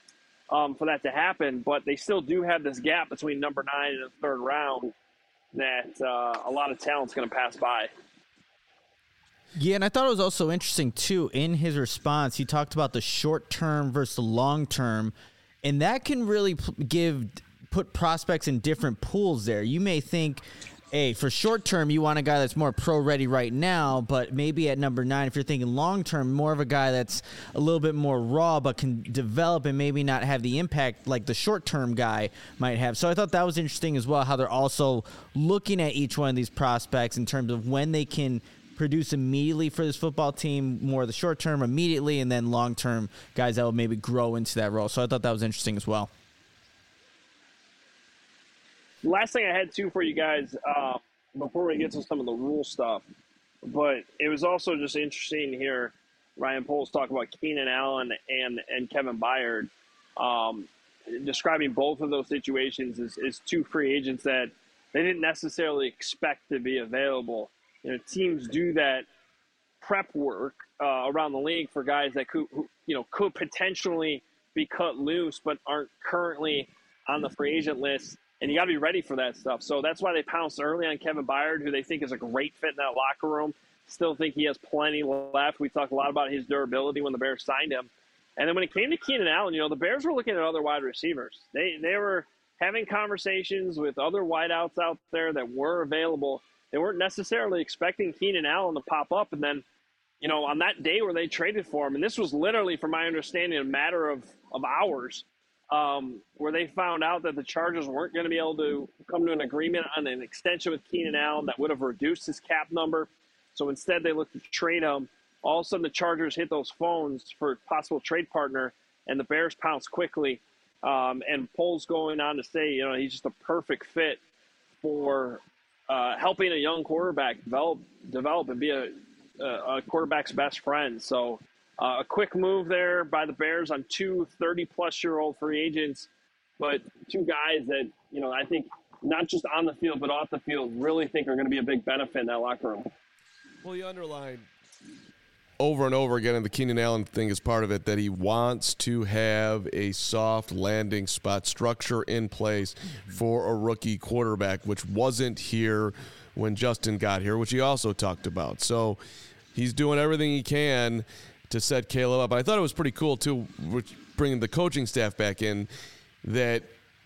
for that to happen, but they still do have this gap between number 9 and the third round that a lot of talent's going to pass by. Yeah, and I thought it was also interesting, too, in his response, he talked about the short term versus the long term, and that can really put prospects in different pools there. You may think, hey, for short term, you want a guy that's more pro-ready right now, but maybe at number 9, if you're thinking long term, more of a guy that's a little bit more raw but can develop and maybe not have the impact like the short-term guy might have. So I thought that was interesting as well, how they're also looking at each one of these prospects in terms of when they can produce immediately for this football team, more of the short term immediately, and then long term guys that will maybe grow into that role. So I thought that was interesting as well. Last thing I had too for you guys before we get to some of the rule stuff, but it was also just interesting to hear Ryan Poles talk about Keenan Allen and Kevin Byard, describing both of those situations as two free agents that they didn't necessarily expect to be available. You know, teams do that prep work around the league for guys that could potentially be cut loose but aren't currently on the free agent list, and you got to be ready for that stuff. So that's why they pounced early on Kevin Byard, who they think is a great fit in that locker room. Still think he has plenty left. We talked a lot about his durability when the Bears signed him. And then when it came to Keenan Allen, the Bears were looking at other wide receivers. They were having conversations with other wideouts out there that were available. They weren't necessarily expecting Keenan Allen to pop up. And then, on that day where they traded for him, and this was literally, from my understanding, a matter of hours, where they found out that the Chargers weren't going to be able to come to an agreement on an extension with Keenan Allen that would have reduced his cap number. So instead they looked to trade him. All of a sudden the Chargers hit those phones for a possible trade partner, and the Bears pounced quickly. And Poles going on to say, he's just a perfect fit for helping a young quarterback develop and be a quarterback's best friend. So a quick move there by the Bears on two 30-plus-year-old free agents, but two guys that, I think not just on the field but off the field really think are going to be a big benefit in that locker room. Well, you underlined over and over again, and the Keenan Allen thing is part of it, that he wants to have a soft landing spot structure in place for a rookie quarterback, which wasn't here when Justin got here, which he also talked about. So he's doing everything he can to set Caleb up. I thought it was pretty cool, too, bringing the coaching staff back in, that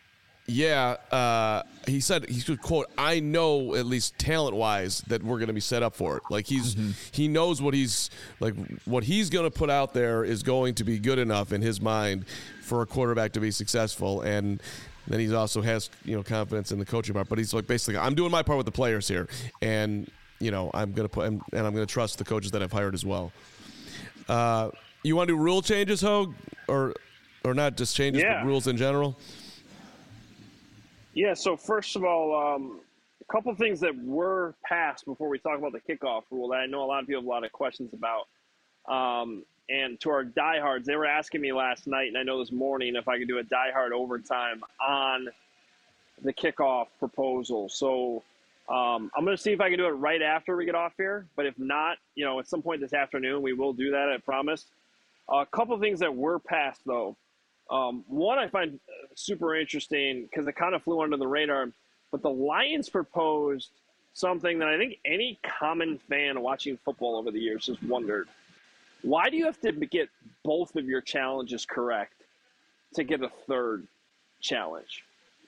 he said, he could quote, I know at least talent-wise that we're going to be set up for it. Like he knows what he's going to put out there is going to be good enough in his mind for a quarterback to be successful. And then he also has, confidence in the coaching part. But he's like, basically, I'm doing my part with the players here, and I'm going to trust the coaches that I've hired as well. You want to do rule changes, Hogue, or not just changes, but rules in general? Yeah, so first of all, a couple things that were passed before we talk about the kickoff rule that I know a lot of people have a lot of questions about. And to our diehards, they were asking me last night, and I know this morning, if I could do a diehard overtime on the kickoff proposal. So I'm going to see if I can do it right after we get off here. But if not, at some point this afternoon, we will do that, I promise. A couple things that were passed, though. One I find super interesting because it kind of flew under the radar, but the Lions proposed something that I think any common fan watching football over the years has wondered. Why do you have to get both of your challenges correct to get a third challenge?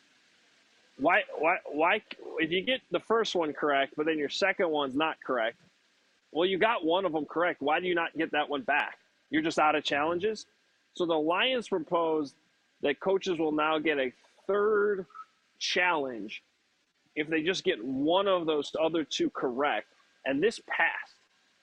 Why if you get the first one correct, but then your second one's not correct, well, you got one of them correct. Why do you not get that one back? You're just out of challenges? So the Lions proposed that coaches will now get a third challenge if they just get one of those other two correct, and this passed.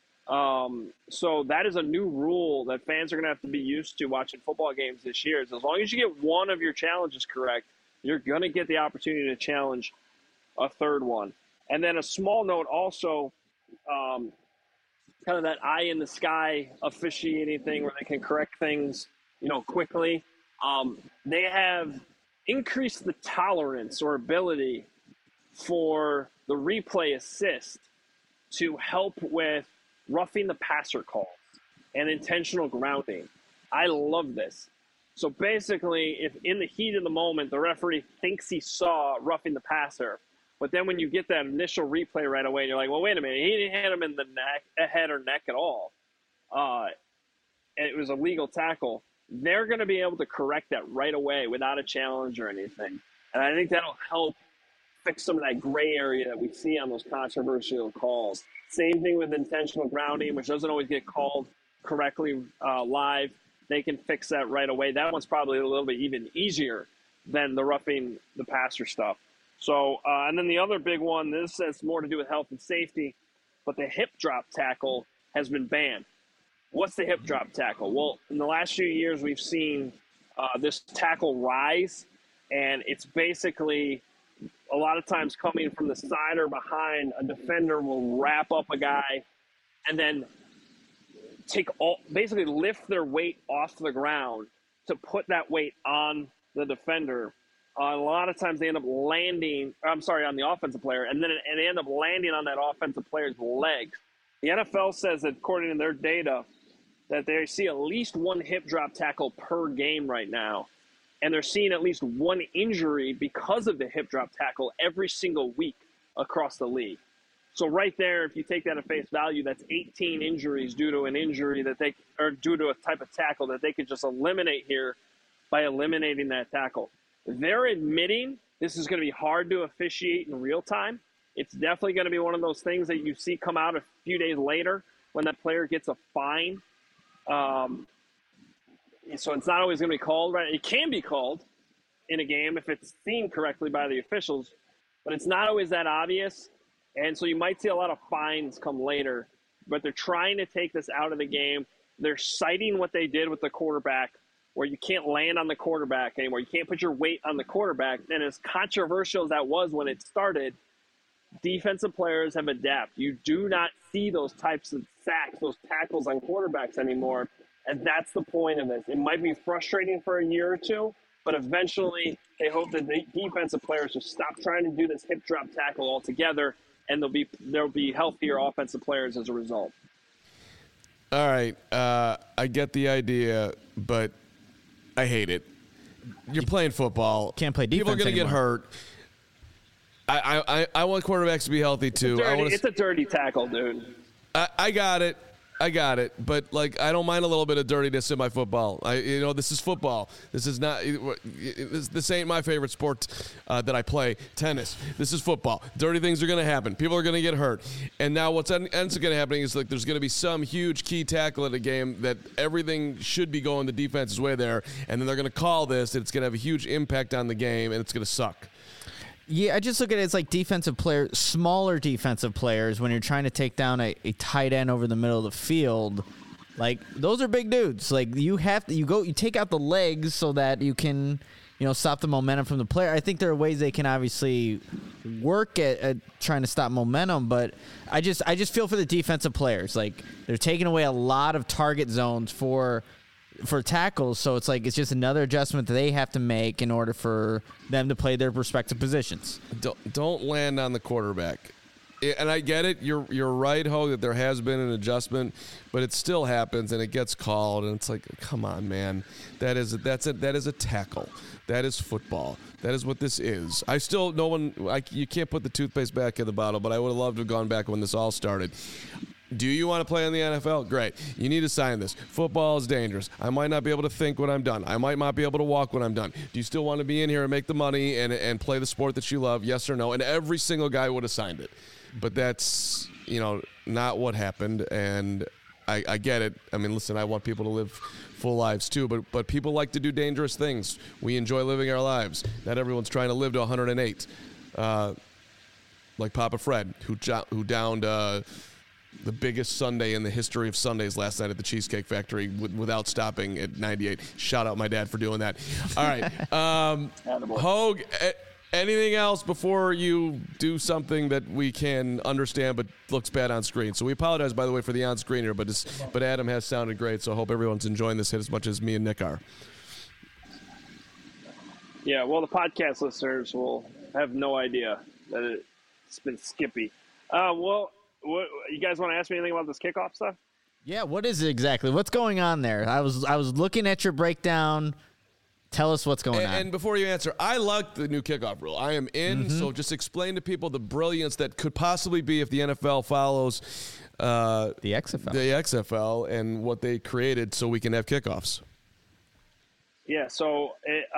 So that is a new rule that fans are going to have to be used to watching football games this year. As long as you get one of your challenges correct, you're going to get the opportunity to challenge a third one. And then a small note also, kind of that eye in the sky officiating thing where they can correct things quickly. They have increased the tolerance or ability for the replay assist to help with roughing the passer calls and intentional grounding. I love this. So basically, if in the heat of the moment, the referee thinks he saw roughing the passer, but then when you get that initial replay right away, you're like, well, wait a minute, he didn't hit him in the head or neck at all. And it was a legal tackle. They're going to be able to correct that right away without a challenge or anything. And I think that'll help fix some of that gray area that we see on those controversial calls. Same thing with intentional grounding, which doesn't always get called correctly live. They can fix that right away. That one's probably a little bit even easier than the roughing the passer stuff. So, and then the other big one, this has more to do with health and safety, but the hip drop tackle has been banned. What's the hip drop tackle? Well, in the last few years, we've seen this tackle rise, and it's basically a lot of times coming from the side or behind. A defender will wrap up a guy and then basically lift their weight off the ground to put that weight on the defender. A lot of times they end up landing, on the offensive player, and they end up landing on that offensive player's legs. The NFL says that according to their data that they see at least one hip drop tackle per game right now, and they're seeing at least one injury because of the hip drop tackle every single week across the league. So right there, if you take that at face value, that's 18 injuries due to an injury due to a type of tackle that they could just eliminate here by eliminating that tackle. They're admitting this is going to be hard to officiate in real time. It's definitely going to be one of those things that you see come out a few days later when that player gets a fine. So it's not always going to be called, right? It can be called in a game if it's seen correctly by the officials, but it's not always that obvious. And so you might see a lot of fines come later, but they're trying to take this out of the game. They're citing what they did with the quarterback, where you can't land on the quarterback anymore. You can't put your weight on the quarterback. And as controversial as that was when it started, defensive players have adapted. You do not see those types of sacks, those tackles on quarterbacks anymore. And that's the point of this. It might be frustrating for a year or two, but eventually they hope that the defensive players will stop trying to do this hip drop tackle altogether, and there'll be healthier offensive players as a result. All right. I get the idea, but I hate it. You're playing football. Can't play defense People are going to get anymore. hurt. I want quarterbacks to be healthy too. It's a dirty tackle, dude. I got it. But I don't mind a little bit of dirtiness in my football. This is football. This is not. This ain't my favorite sport that I play. Tennis. This is football. Dirty things are going to happen. People are going to get hurt. And now what's ends up going to happen is there's going to be some huge key tackle in a game that everything should be going the defense's way there, and then they're going to call this. And it's going to have a huge impact on the game, and it's going to suck. Yeah, I just look at it as like defensive players, smaller defensive players, when you're trying to take down a tight end over the middle of the field. Like, those are big dudes. Like, you take out the legs so that you can, stop the momentum from the player. I think there are ways they can obviously work at trying to stop momentum, but I just feel for the defensive players. Like, they're taking away a lot of target zones for tackles, so it's just another adjustment that they have to make in order for them to play their respective positions. Don't land on the quarterback. And I get it. You're right, Hogue, that there has been an adjustment, but it still happens and it gets called, and it's like, come on, man. That is a tackle. That is football. That is what this is. You can't put the toothpaste back in the bottle, but I would have loved to have gone back when this all started. Do you want to play in the NFL? Great. You need to sign this. Football is dangerous. I might not be able to think when I'm done. I might not be able to walk when I'm done. Do you still want to be in here and make the money and play the sport that you love? Yes or no? And every single guy would have signed it. But that's, not what happened. And I get it. I mean, listen, I want people to live full lives too, but people like to do dangerous things. We enjoy living our lives. Not everyone's trying to live to 108. Like Papa Fred, who downed the biggest Sunday in the history of Sundays last night at the Cheesecake Factory without stopping at 98. Shout out my dad for doing that. All right. Hogue, anything else before you do something that we can understand but looks bad on screen? So we apologize, by the way, for the on-screen here, but Adam has sounded great, so I hope everyone's enjoying this hit as much as me and Nick are. Yeah, well, the podcast listeners will have no idea that it's been skippy. What, you guys want to ask me anything about this kickoff stuff? Yeah, what is it exactly? What's going on there? I was looking at your breakdown Tell us what's going on. And before you answer, I like the new kickoff rule. I am in, so just explain to people the brilliance that could possibly be if the NFL follows the XFL and what they created so we can have kickoffs. Yeah, so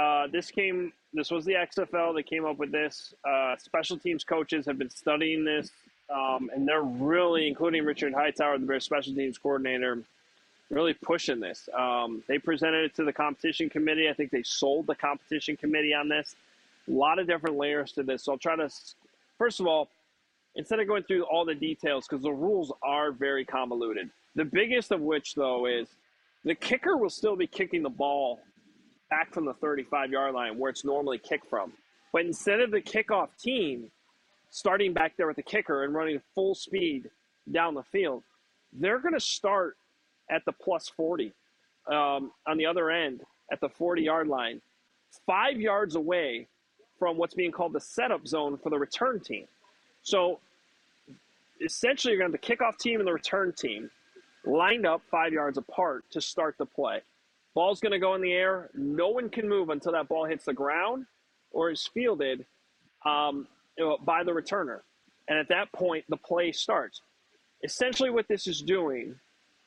this was the XFL that came up with this. Special teams coaches have been studying this, and they're really, including Richard Hightower, the Bears special teams coordinator, really pushing this. They presented it to the competition committee. I think they sold the competition committee on this. A lot of different layers to this. So I'll try to, first of all, instead of going through all the details, because the rules are very convoluted. The biggest of which, though, is the kicker will still be kicking the ball back from the 35-yard line where it's normally kicked from. But instead of the kickoff team starting back there with the kicker and running full speed down the field, they're going to start at the plus 40 on the other end at the 40-yard line, 5 yards away from what's being called the setup zone for the return team. So essentially you're going to have the kickoff team and the return team lined up 5 yards apart to start the play. Ball's going to go in the air. No one can move until that ball hits the ground or is fielded by the returner. And at that point, the play starts. Essentially what this is doing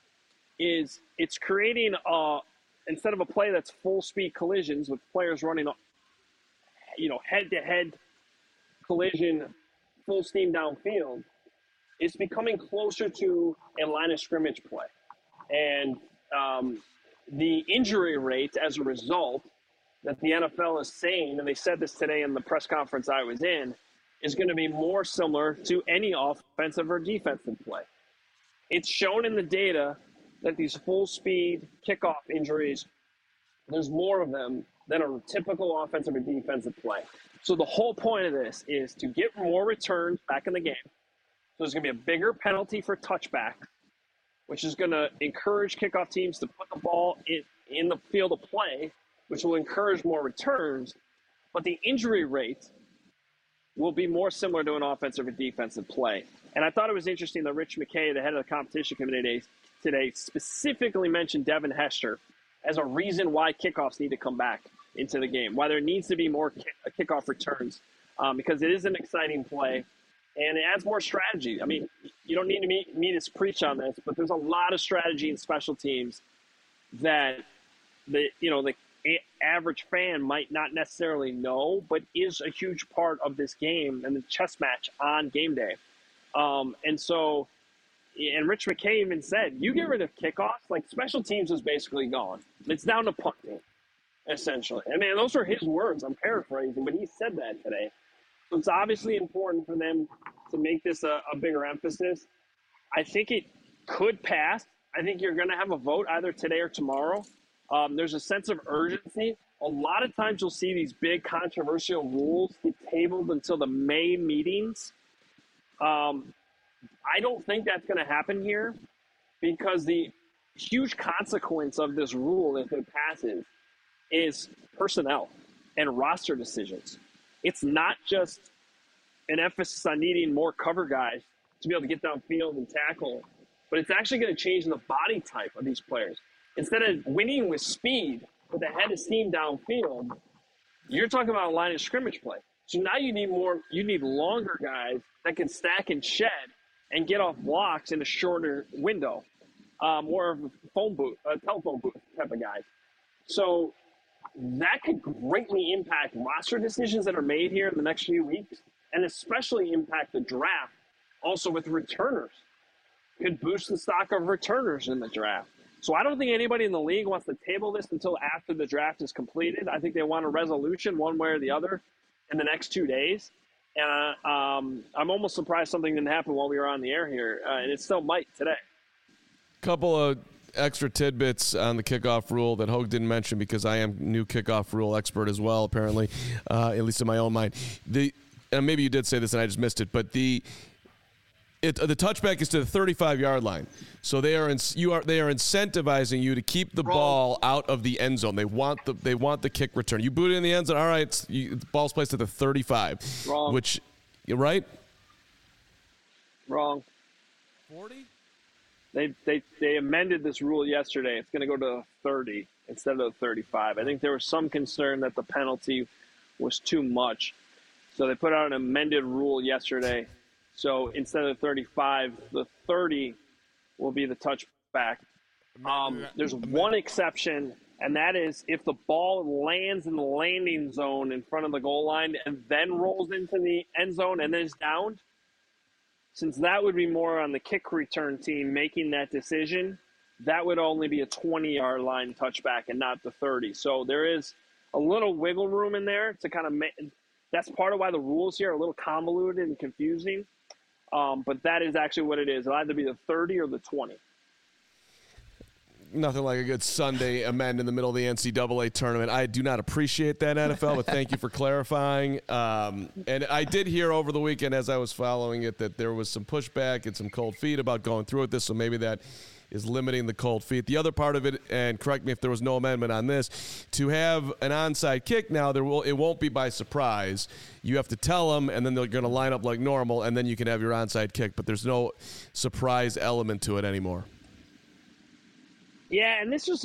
is it's creating instead of a play that's full speed collisions with players running, head to head collision, full steam downfield, it's becoming closer to a line of scrimmage play. And the injury rate as a result that the NFL is saying, and they said this today in the press conference I was in, is going to be more similar to any offensive or defensive play. It's shown in the data that these full-speed kickoff injuries, there's more of them than a typical offensive or defensive play. So the whole point of this is to get more returns back in the game. So there's going to be a bigger penalty for touchback, which is going to encourage kickoff teams to put the ball in the field of play, which will encourage more returns. But the injury rate will be more similar to an offensive or defensive play. And I thought it was interesting that Rich McKay, the head of the competition committee today, specifically mentioned Devin Hester as a reason why kickoffs need to come back into the game, why there needs to be more kickoff returns, because it is an exciting play. And it adds more strategy. I mean, you don't need me to preach on this, but there's a lot of strategy in special teams that the average fan might not necessarily know, but is a huge part of this game and the chess match on game day. And Rich McKay even said, you get rid of kickoffs, like special teams is basically gone. It's down to punting, essentially. I mean, those are his words. I'm paraphrasing, but he said that today. So it's obviously important for them to make this a bigger emphasis. I think it could pass. I think you're going to have a vote either today or tomorrow. There's a sense of urgency. A lot of times you'll see these big controversial rules get tabled until the May meetings. I don't think that's going to happen here because the huge consequence of this rule, if it passes, is personnel and roster decisions. It's not just an emphasis on needing more cover guys to be able to get downfield and tackle, but it's actually going to change the body type of these players. Instead of winning with speed with a head of steam downfield, you're talking about a line of scrimmage play. So now you need longer guys that can stack and shed and get off blocks in a shorter window, more of a telephone booth type of guy. So that could greatly impact roster decisions that are made here in the next few weeks, and especially impact the draft. Also with returners, could boost the stock of returners in the draft. So I don't think anybody in the league wants to table this until after the draft is completed. I think they want a resolution one way or the other in the next 2 days. And I'm almost surprised something didn't happen while we were on the air here, and it still might today. Couple of extra tidbits on the kickoff rule that Hogue didn't mention because I am new kickoff rule expert as well, apparently, at least in my own mind. And maybe you did say this and I just missed it, but the touchback is to the 35-yard line. So they are incentivizing you to keep the ball out of the end zone. They want the kick return. You boot it in the end zone. All right, the ball's placed at the 35. Wrong. Which, right? Wrong. 40? They amended this rule yesterday. It's going to go to 30. instead of the 35. I think there was some concern that the penalty was too much. So they put out an amended rule yesterday. So instead of the 35, the 30 will be the touchback. There's one exception, and that is if the ball lands in the landing zone in front of the goal line and then rolls into the end zone and then is downed. Since that would be more on the kick return team making that decision, that would only be a 20-yard line touchback and not the 30. So there is a little wiggle room in there to kind of make – that's part of why the rules here are a little convoluted and confusing. But that is actually what it is. It'll either be the 30 or the 20. Nothing like a good Sunday amend in the middle of the NCAA tournament. I do not appreciate that, NFL, but thank you for clarifying. And I did hear over the weekend as I was following it that there was some pushback and some cold feet about going through with this, so maybe that is limiting the cold feet. The other part of it, and correct me if there was no amendment on this, to have an onside kick now, it won't be by surprise. You have to tell them, and then they're going to line up like normal, and then you can have your onside kick, but there's no surprise element to it anymore. Yeah, and this is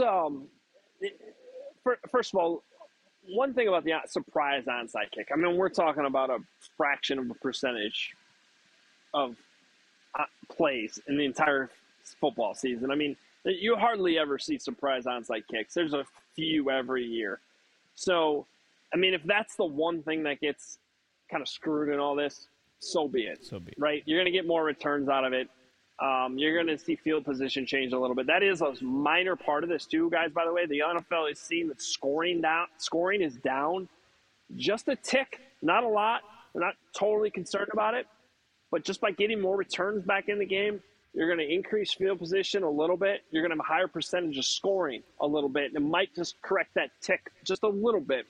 first of all, one thing about the surprise onside kick. I mean, we're talking about a fraction of a percentage of plays in the entire football season. I mean, you hardly ever see surprise onside kicks. There's a few every year. So, I mean, if that's the one thing that gets kind of screwed in all this, so be it. Right? You're going to get more returns out of it. You're going to see field position change a little bit. That is a minor part of this too, guys, by the way. The NFL is seeing that scoring is down just a tick, not a lot. They're not totally concerned about it. But just by getting more returns back in the game, you're going to increase field position a little bit. You're going to have a higher percentage of scoring a little bit. And it might just correct that tick just a little bit.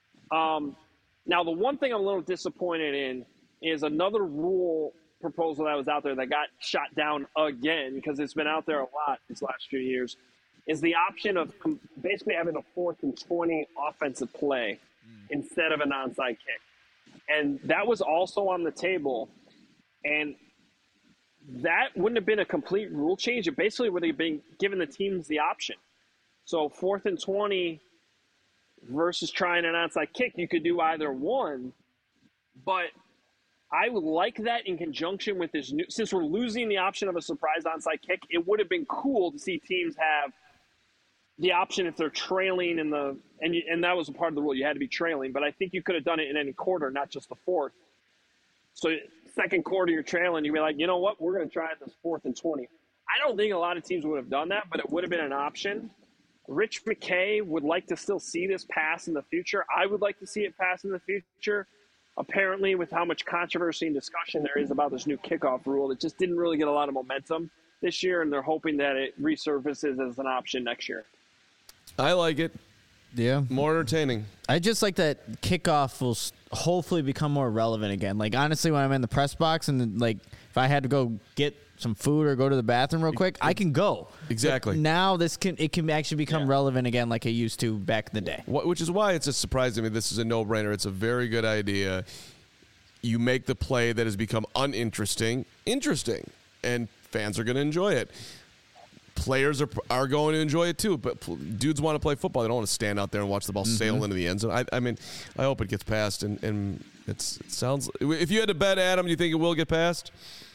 Now, the one thing I'm a little disappointed in is another rule proposal that was out there that got shot down again because it's been out there a lot these last few years, is the option of basically having a 4th and 20 offensive play instead of an onside kick. And that was also on the table. And that wouldn't have been a complete rule change. It basically would have been giving the teams the option. So 4th and 20 versus trying an onside kick, you could do either one. But I would like that in conjunction with this new, since we're losing the option of a surprise onside kick, it would have been cool to see teams have the option if they're trailing in the, and that was a part of the rule. You had to be trailing, but I think you could have done it in any quarter, not just the 4th. So second quarter, you're trailing, you'd be like, you know what, we're going to try this 4th and 20. I don't think a lot of teams would have done that, but it would have been an option. Rich McKay would like to still see this pass in the future. I would like to see it pass in the future. Apparently, with how much controversy and discussion there is about this new kickoff rule, it just didn't really get a lot of momentum this year, and they're hoping that it resurfaces as an option next year. I like it. Yeah. More entertaining. I just like that kickoff will hopefully become more relevant again. Like, honestly, when I'm in the press box and, like, if I had to go get some food or go to the bathroom real quick, I can go. Exactly. But now it can actually become relevant again like it used to back in the day. Which is why it's a surprise to me. This is a no-brainer. It's a very good idea. You make the play that has become uninteresting interesting, and fans are going to enjoy it. Players are going to enjoy it too, but dudes want to play football. They don't want to stand out there and watch the ball sail into the end zone. I mean, I hope it gets passed, and it sounds. If you had to bet, Adam, do you think it will get passed?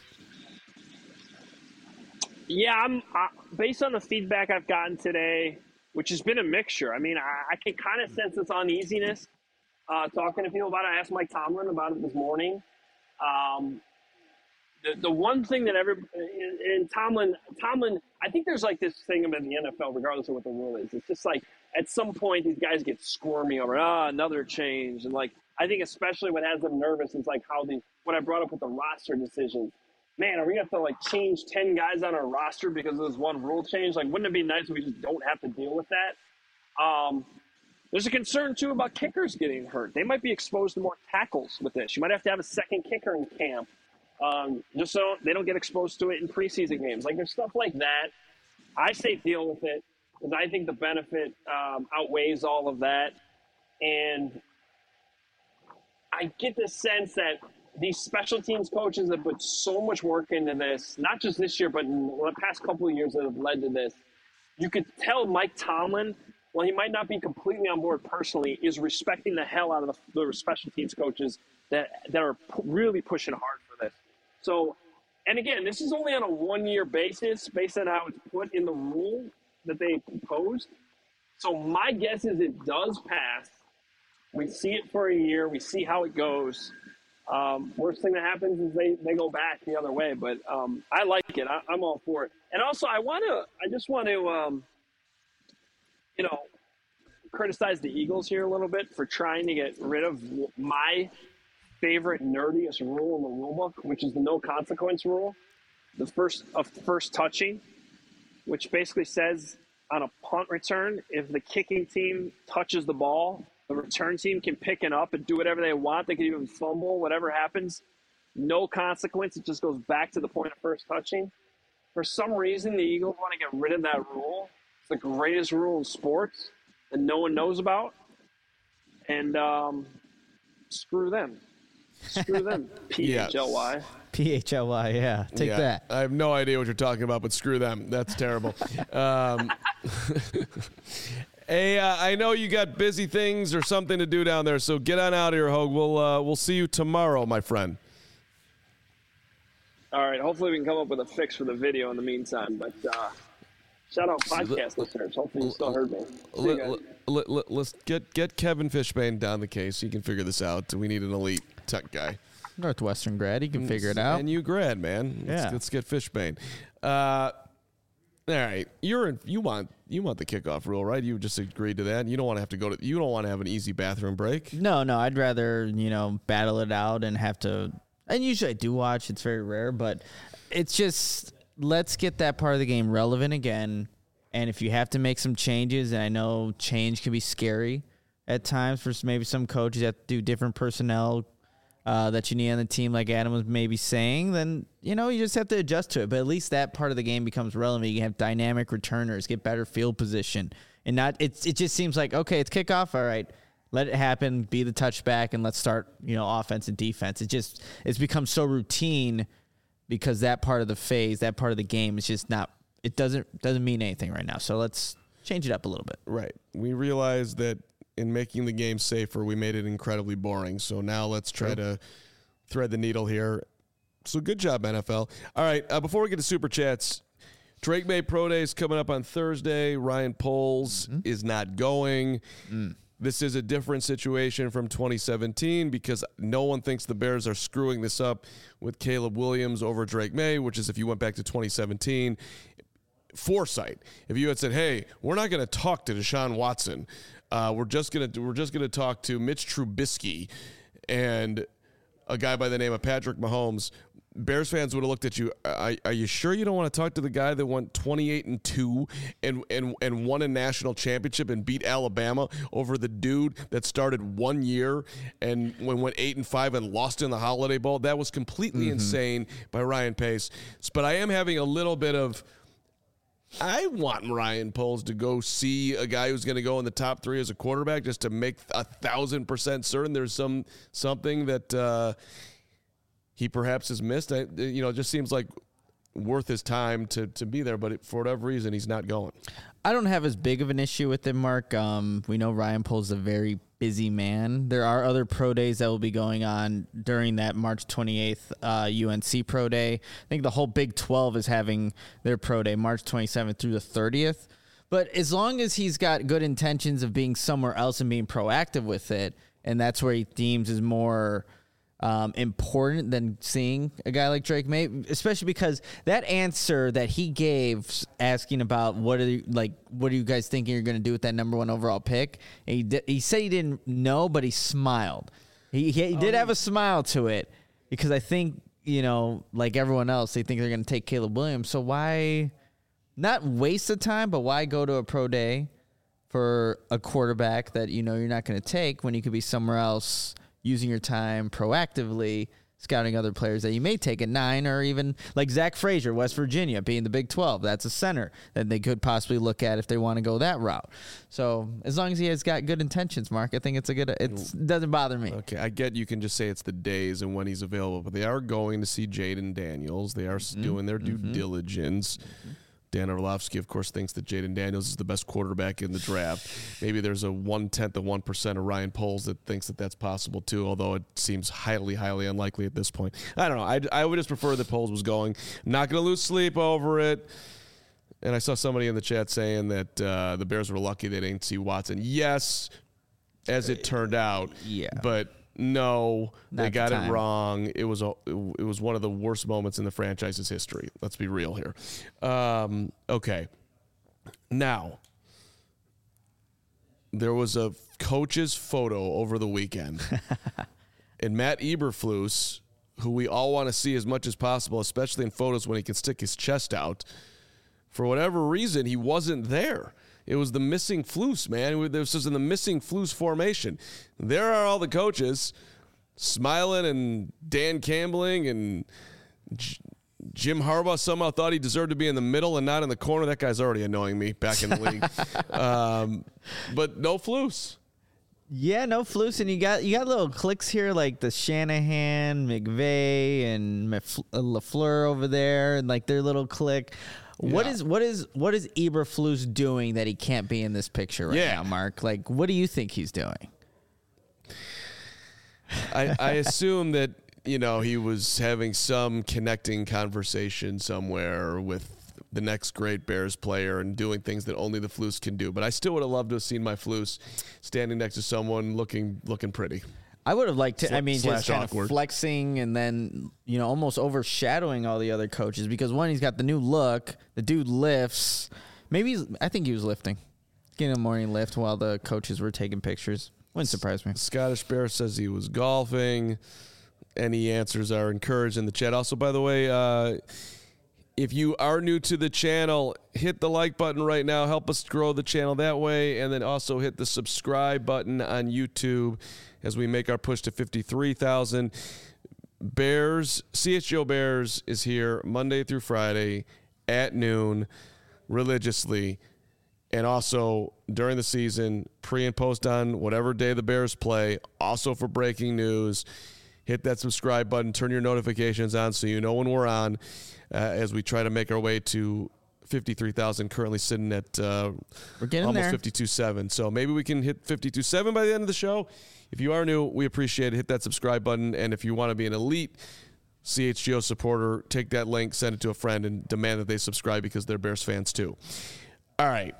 Yeah, I'm based on the feedback I've gotten today, which has been a mixture. I mean, I can kind of sense this uneasiness talking to people about it. I asked Mike Tomlin about it this morning. The one thing that Tomlin, I think there's like this thing about the NFL, regardless of what the rule is. It's just like at some point these guys get squirmy over another change, and like I think especially what has them nervous is like what I brought up with the roster decisions. Man, are we going to have to, like, change 10 guys on our roster because of this one rule change? Like, wouldn't it be nice if we just don't have to deal with that? There's a concern, too, about kickers getting hurt. They might be exposed to more tackles with this. You might have to have a second kicker in camp just so they don't get exposed to it in preseason games. Like, there's stuff like that. I say deal with it because I think the benefit outweighs all of that. And I get the sense that these special teams coaches have put so much work into this, not just this year, but in the past couple of years that have led to this. You could tell Mike Tomlin while he might not be completely on board personally, is respecting the hell out of the special teams coaches that are really pushing hard for this. So, and again, this is only on a 1-year basis based on how it's put in the rule that they proposed. So my guess is it does pass. We see it for a year. We see how it goes. Worst thing that happens is they go back the other way. But I like it. I'm all for it. And also, I just want to criticize the Eagles here a little bit for trying to get rid of my favorite nerdiest rule in the rule book, which is the no consequence rule, the first touching, which basically says on a punt return, if the kicking team touches the ball, the return team can pick it up and do whatever they want. They can even fumble, whatever happens. No consequence. It just goes back to the point of first touching. For some reason, the Eagles want to get rid of that rule. It's the greatest rule in sports that no one knows about. And screw them. Screw them. PHLY. PHLY, yeah. Take that. I have no idea what you're talking about, but screw them. That's terrible. Hey, I know you got busy things or something to do down there, so get on out of here, Hogue. We'll see you tomorrow, my friend. All right. Hopefully we can come up with a fix for the video in the meantime. But shout out podcast listeners. Hopefully you still heard me. Let's get Kevin Fishbane down the case. He can figure this out. We need an elite tech guy. Northwestern grad. He can figure it out. And you grad, man. Let's get Fishbane. All right, you want the kickoff rule, right? You just agreed to that. You don't want to have to you don't want to have an easy bathroom break. No, I'd rather battle it out and have to. And usually I do watch. It's very rare, but it's just let's get that part of the game relevant again. And if you have to make some changes, and I know change can be scary at times for maybe some coaches that have to do different personnel that you need on the team, like Adam was maybe saying, then, you just have to adjust to it. But at least that part of the game becomes relevant. You can have dynamic returners, get better field position. And it just seems like, okay, it's kickoff. All right, let it happen, be the touchback, and let's start, offense and defense. It's become so routine because that part of the phase, that part of the game is just not, it doesn't mean anything right now. So let's change it up a little bit. Right. We realize that in making the game safer, we made it incredibly boring. So now let's try to thread the needle here. So good job, NFL. All right, before we get to Super Chats, Drake May Pro Day is coming up on Thursday. Ryan Poles is not going. This is a different situation from 2017 because no one thinks the Bears are screwing this up with Caleb Williams over Drake May, which is, if you went back to 2017, foresight. If you had said, hey, we're not going to talk to Deshaun Watson, we're just gonna talk to Mitch Trubisky and a guy by the name of Patrick Mahomes, Bears fans would have looked at you. Are you sure you don't want to talk to the guy that went 28-2 and won a national championship and beat Alabama over the dude that started 1 year and went 8-5 and lost in the Holiday Bowl? That was completely insane by Ryan Pace. But I am having a little bit of, I want Ryan Poles to go see a guy who's going to go in the top 3 as a quarterback just to make 1,000% certain there's something that he perhaps has missed. It just seems like worth his time to be there, but for whatever reason, he's not going. I don't have as big of an issue with it, Mark. We know Ryan Poles is a very busy man. There are other pro days that will be going on during that March 28th UNC pro day. I think the whole Big 12 is having their pro day March 27th through the 30th. But as long as he's got good intentions of being somewhere else and being proactive with it, and that's where he deems is more important than seeing a guy like Drake May, especially because that answer that he gave asking about what are you guys thinking you're going to do with that number 1 overall pick, he said he didn't know, but he smiled. He did have a smile to it because I think, like everyone else, they think they're going to take Caleb Williams. So why not waste the time, but why go to a pro day for a quarterback that you're not going to take when you could be somewhere else using your time proactively, scouting other players that you may take at 9, or even like Zach Frazier, West Virginia, being the Big 12. That's a center that they could possibly look at if they want to go that route. So as long as he has got good intentions, Mark, I think it doesn't bother me. Okay, I get you can just say it's the days and when he's available, but they are going to see Jaden Daniels. They are doing their due diligence. Dan Orlovsky, of course, thinks that Jaden Daniels is the best quarterback in the draft. Maybe there's a 1/10 of 1% of Ryan Poles that thinks that that's possible too, although it seems highly, highly unlikely at this point. I don't know. I would just prefer that Poles was going. I'm not going to lose sleep over it. And I saw somebody in the chat saying that the Bears were lucky they didn't see Watson. Yes, as it turned out. Yeah. But no, they Not the got it time. wrong. It was one of the worst moments in the franchise's history. Let's be real here. Okay. Now, there was a coach's photo over the weekend. And Matt Eberflus, who we all want to see as much as possible, especially in photos when he can stick his chest out, for whatever reason, he wasn't there. It was the missing Flus, man. This was in the missing Flus formation. There are all the coaches smiling, and Dan Campbelling and Jim Harbaugh somehow thought he deserved to be in the middle and not in the corner. That guy's already annoying me back in the league. But no Flus. Yeah, no Flus, and you got little clicks here like the Shanahan, McVay, and LaFleur over there, and like their little click. What is Eberflus doing that he can't be in this picture right now, Mark? Like, what do you think he's doing? I assume that, he was having some connecting conversation somewhere with the next great Bears player and doing things that only the Flus can do. But I still would have loved to have seen my Flus standing next to someone looking pretty. I would have liked to, just kind awkward. of flexing and then, almost overshadowing all the other coaches because, one, he's got the new look. The dude lifts. I think he was lifting. Getting a morning lift while the coaches were taking pictures. Wouldn't surprise me. Scottish Bear says he was golfing. Any answers are encouraged in the chat. Also, by the way, if you are new to the channel, hit the like button right now. Help us grow the channel that way. And then also hit the subscribe button on YouTube as we make our push to 53,000. CHGO Bears is here Monday through Friday at noon religiously. And also during the season, pre and post on whatever day the Bears play. Also for breaking news, hit that subscribe button, turn your notifications on so you know when we're on as we try to make our way to 53,000, currently sitting at we're getting almost there. 52.7. So maybe we can hit 52.7 by the end of the show. If you are new, we appreciate it. Hit that subscribe button. And if you want to be an elite CHGO supporter, take that link, send it to a friend, and demand that they subscribe because they're Bears fans too. All right.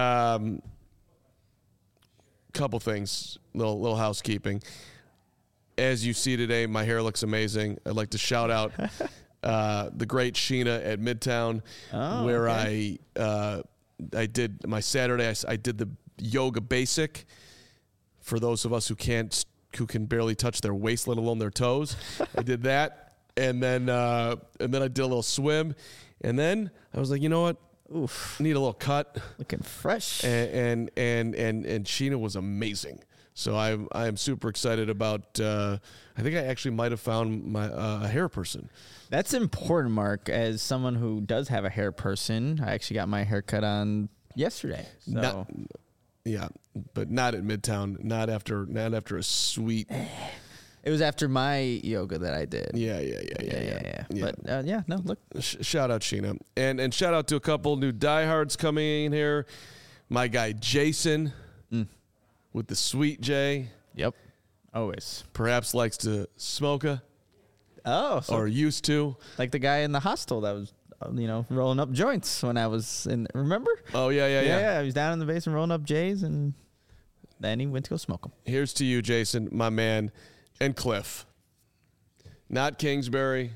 Couple things, little housekeeping. As you see today, my hair looks amazing. I'd like to shout out the great Sheena at Midtown, where okay. I did my Saturday. I did the yoga basic for those of us who can barely touch their waist, let alone their toes. I did that, and then I did a little swim, and then I was like, you know what? Oof. Need a little cut. Looking fresh. And Sheena was amazing. So I am super excited about. I think I actually might have found my a hair person. That's important, Mark. As someone who does have a hair person, I actually got my hair cut on yesterday. So. But not at Midtown. Not after a sweet. It was after my yoga that I did. Yeah. But no, look. Shout out Sheena, and shout out to a couple new diehards coming in here. My guy Jason. With the Sweet J. Yep. Always. Perhaps likes to smoke or used to. Like the guy in the hostel that was, rolling up joints when I was in, remember? Oh, yeah. Yeah, he was down in the basement rolling up J's, and then he went to go smoke them. Here's to you, Jason, my man, and Cliff. Not Kingsbury.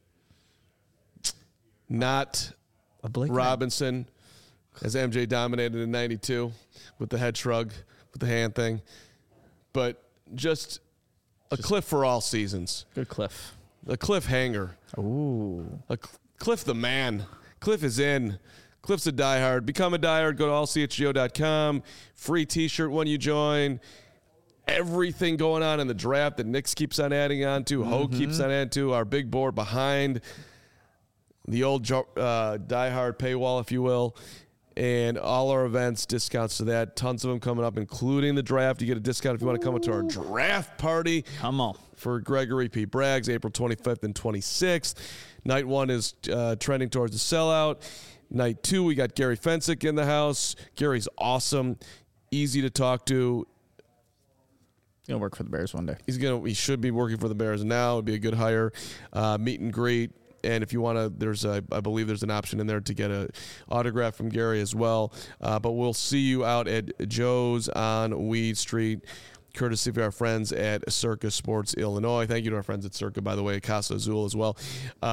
Not Robinson, as MJ dominated in 92 with the head shrug. With the hand thing, but just Cliff for all seasons. Good Cliff. A Cliff hanger. Ooh. Cliff the man. Cliff is in. Cliff's a diehard. Become a diehard. Go to allchgo.com. Free t-shirt when you join. Everything going on in the draft that Nix keeps on adding on to. Hogue keeps on adding to. Our big board behind the old diehard paywall, if you will. And all our events, discounts to that. Tons of them coming up, including the draft. You get a discount if you want to come to our draft party. Come on. For Gregory P. Braggs, April 25th and 26th. Night one is trending towards the sellout. Night 2, we got Gary Fensick in the house. Gary's awesome, easy to talk to. He's going to work for the Bears one day. He should be working for the Bears now. It'd be a good hire. Meet and greet. And if you want to, I believe there's an option in there to get an autograph from Gary as well. But we'll see you out at Joe's on Weed Street, courtesy of our friends at Circa Sports Illinois. Thank you to our friends at Circa, by the way, Casa Azul as well.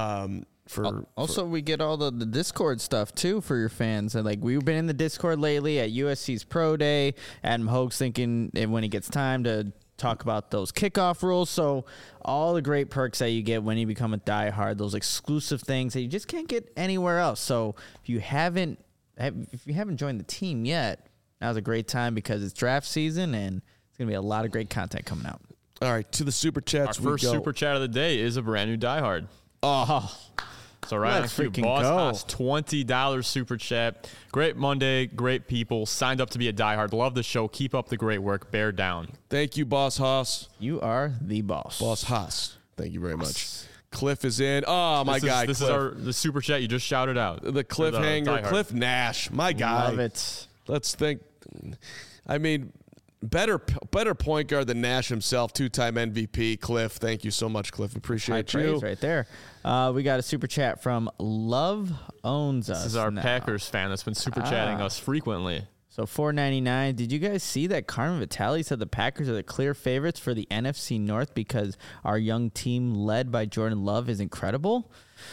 We get all the Discord stuff too for your fans, and like we've been in the Discord lately at USC's Pro Day. Adam Hogue's thinking when he gets time to talk about those kickoff rules. So all the great perks that you get when you become a diehard, those exclusive things that you just can't get anywhere else. So if you haven't joined the team yet, now's a great time because it's draft season and it's gonna be a lot of great content coming out. All right, to the super chats. Our first super chat of the day is a brand new diehard. Oh. So Ryan, Let's you freaking Boss go. Haas, $20 super chat. Great Monday, great people. Signed up to be a diehard. Love the show. Keep up the great work. Bear down. Thank you, Boss Haas. You are the boss. Boss Haas. Thank you very much. Cliff is in. Oh, my guy. This Cliff. is the super chat you just shouted out. The cliffhanger. Cliff Nash. My guy. Love it. Let's think. I mean, better point guard than Nash himself, 2-time MVP. Cliff, thank you so much, Cliff. Appreciate High you. praise right there. We got a super chat from Love Owns Us. This is our now. Packers fan that's been super chatting us frequently. So $4.99. Did you guys see that Carmen Vitale said the Packers are the clear favorites for the NFC North because our young team led by Jordan Love is incredible?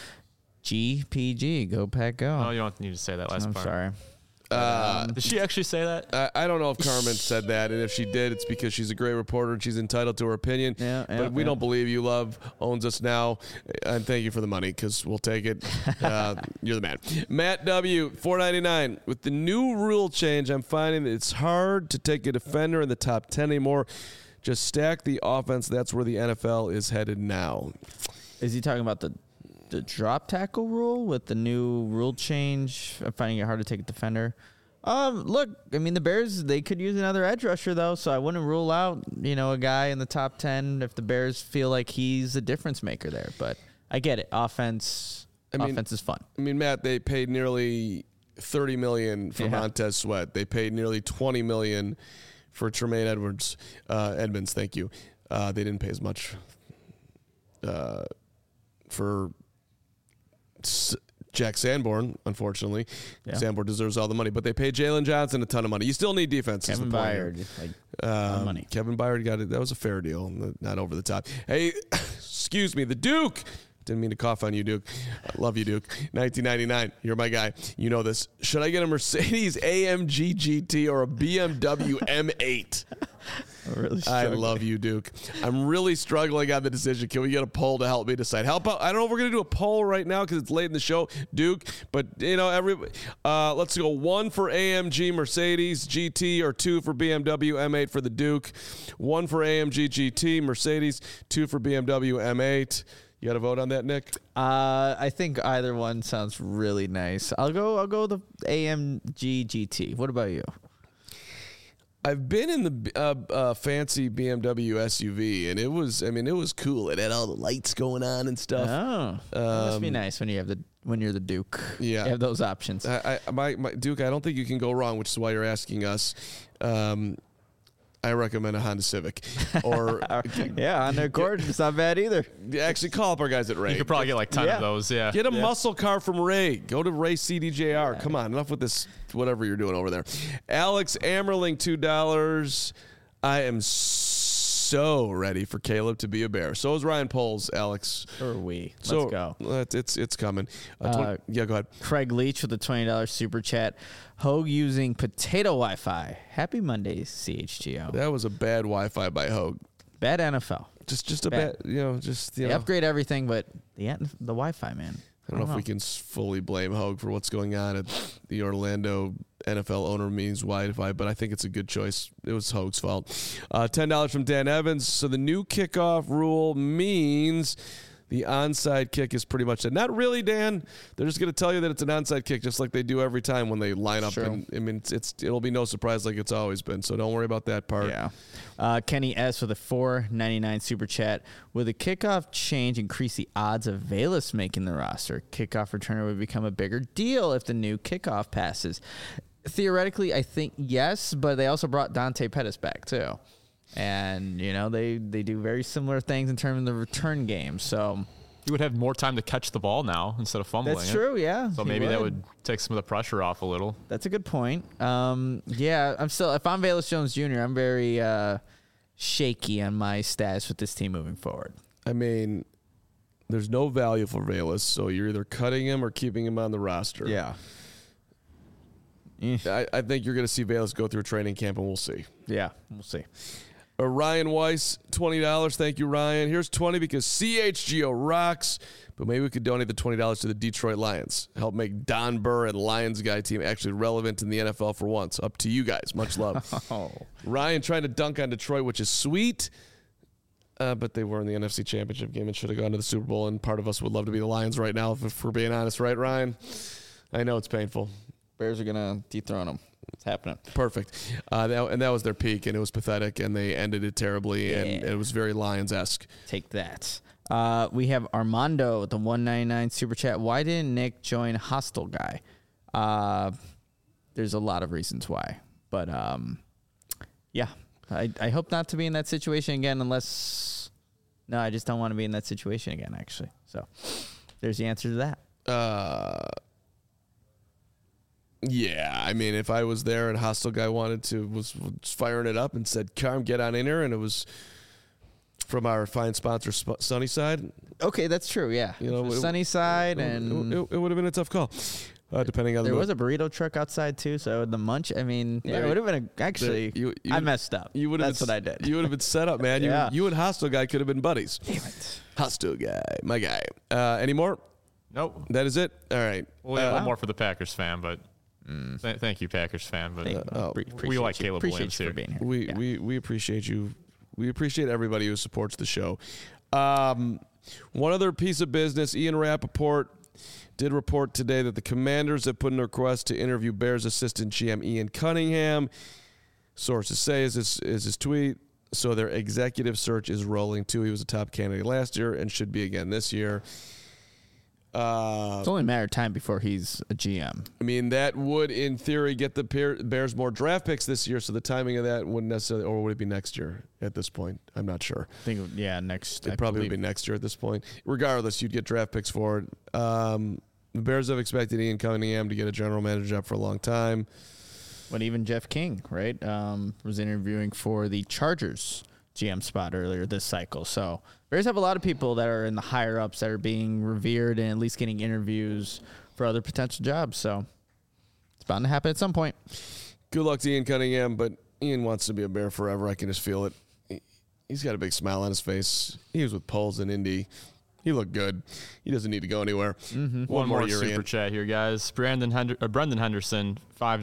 GPG, go Pack, go. Oh, you don't need to say that last part. I'm sorry. Did she actually say that? I don't know if Carmen said that, and if she did, it's because she's a great reporter and she's entitled to her opinion. But we don't believe you. Love owns us now, and thank you for the money because we'll take it. You're the man. Matt W. $4.99. With the new rule change, I'm finding that it's hard to take a defender in the top 10 anymore. Just stack the offense. That's where the NFL is headed now. Is he talking about the drop tackle rule with the new rule change? I'm finding it hard to take a defender. Look, I mean, the Bears, they could use another edge rusher, though, so I wouldn't rule out, a guy in the top 10 if the Bears feel like he's a difference maker there. But I get it. Offense is fun. I mean, Matt, they paid nearly $30 million for Montez Sweat. They paid nearly $20 million for Tremaine Edmonds, thank you. They didn't pay as much for Jack Sanborn, unfortunately. Yeah. Sanborn deserves all the money, but they paid Jalen Johnson a ton of money. You still need defense. Kevin Byard, money. Kevin Byard got it. That was a fair deal, not over the top. Hey, excuse me, the Duke. Didn't mean to cough on you, Duke. I love you, Duke. 1999. You're my guy. You know this. Should I get a Mercedes AMG GT or a BMW M8? I love you, Duke. I'm really struggling on the decision. Can we get a poll to help me decide? I don't know if we're going to do a poll right now because it's late in the show, Duke. But, let's go 1 for AMG Mercedes GT or 2 for BMW M8 for the Duke. 1 for AMG GT Mercedes, 2 for BMW M8. You got to vote on that, Nick? I think either one sounds really nice. I'll go the AMG GT. What about you? I've been in the fancy BMW SUV, and it was cool. It had all the lights going on and stuff. Oh, that must be nice when you're the Duke. Yeah, you have those options. My Duke, I don't think you can go wrong, which is why you're asking us. I recommend a Honda Civic. Or Honda Accord. It's not bad either. Actually, call up our guys at Ray. You could probably get like 10 of those. Yeah. Get a muscle car from Ray. Go to Ray CDJR. Yeah. Come on, enough with this. Whatever you're doing over there. Alex Ammerling, $2. I am so ready for Caleb to be a Bear. So is Ryan Poles, Alex. Or we. Let's go. It's coming. Go ahead. Craig Leach with a $20 super chat. Hogue using potato Wi-Fi. Happy Mondays, CHGO. That was a bad Wi-Fi by Hogue. Bad NFL. Just a bad. They upgrade everything, but the Wi-Fi, man. I don't know if we can fully blame Hogue for what's going on at the Orlando NFL owner meetings Wi-Fi, but I think it's a good choice. It was Hogue's fault. $10 from Dan Evans. So the new kickoff rule means The onside kick is pretty much it. Not really, Dan. They're just going to tell you that it's an onside kick, just like they do every time when they line up. And, I mean, it'll be no surprise like it's always been. So don't worry about that part. Yeah. Kenny S. with a $4.99 super chat. Will the kickoff change increase the odds of Velus making the roster? Kickoff returner would become a bigger deal if the new kickoff passes. Theoretically, I think yes, but they also brought Dante Pettis back too. And, you know, they do very similar things in terms of the return game. So you would have more time to catch the ball now instead of fumbling. That's true, yeah. So maybe that would take some of the pressure off a little. That's a good point. Yeah, if I'm Velus Jones Jr., I'm very shaky on my status with this team moving forward. I mean, there's no value for Velus, so you're either cutting him or keeping him on the roster. Yeah. I think you're going to see Velus go through training camp, and we'll see. Yeah, we'll see. Ryan Weiss, $20. Thank you, Ryan. Here's 20 because CHGO rocks, but maybe we could donate the $20 to the Detroit Lions. Help make Don Burr and Lions guy team actually relevant in the NFL for once. Up to you guys. Much love. Ryan trying to dunk on Detroit, which is sweet, but they were in the NFC Championship game and should have gone to the Super Bowl, and part of us would love to be the Lions right now, if we're being honest. Right, Ryan? I know it's painful. Bears are going to dethrone them. It's happening. Perfect. That was their peak, and it was pathetic, and they ended it terribly, and it was very Lions-esque. Take that. We have Armando with the $1.99 super chat. Why didn't Nick join Hostile Guy? There's a lot of reasons why. But, yeah, I hope not to be in that situation again unless – no, I just don't want to be in that situation again, actually. So there's the answer to that. Yeah, I mean, if I was there and Hostile Guy was firing it up and said, "Carm, get on in here," and it was from our fine sponsor, Sunnyside. Okay, that's true. Yeah, you know, Sunnyside, and it would have been a tough call. Depending on there was a burrito truck outside too, so the munch. I mean, yeah, it would have been I messed up. That's what I did. You would have been set up, man. Yeah. You and Hostile Guy could have been buddies. Damn it, Hostile Guy, my guy. Any more? Nope. That is it. All right. We'll have one more for the Packers fan, but. Thank you, Packers fan. But we like Caleb Williams here. Being here. We appreciate you. We appreciate everybody who supports the show. One other piece of business: Ian Rappaport did report today that the Commanders have put in a request to interview Bears assistant GM Ian Cunningham. Sources say is his tweet. So their executive search is rolling too. He was a top candidate last year and should be again this year. It's only a matter of time before he's a GM. I mean, that would, in theory, get the Bears more draft picks this year, so the timing of that wouldn't necessarily, or would it be next year at this point? I'm not sure. I think, next. It probably would be next year at this point. Regardless, you'd get draft picks for it. The Bears have expected Ian Cunningham to get a general manager job for a long time. But even Jeff King, right, was interviewing for the Chargers GM spot earlier this cycle. So Bears have a lot of people that are in the higher ups that are being revered and at least getting interviews for other potential jobs. So it's bound to happen at some point. Good luck to Ian Cunningham, but Ian wants to be a Bear forever. I can just feel it. He's got a big smile on his face. He was with Poles in Indy. He looked good. He doesn't need to go anywhere. Mm-hmm. One more super chat here, guys. Brendan Henderson,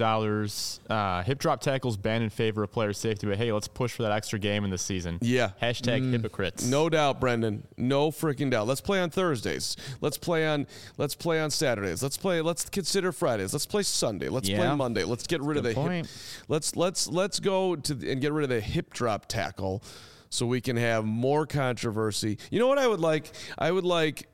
$5. Hip drop tackles banned in favor of player safety, but hey, let's push for that extra game in the season. Yeah. Hashtag hypocrites. No doubt, Brendan. No freaking doubt. Let's play on Thursdays. Let's play on Saturdays. Let's consider Fridays. Let's play Sunday. Let's play Monday. Let's get rid of the hip. Let's go to and get rid of the hip drop tackle. So we can have more controversy. You know what I would like? I would like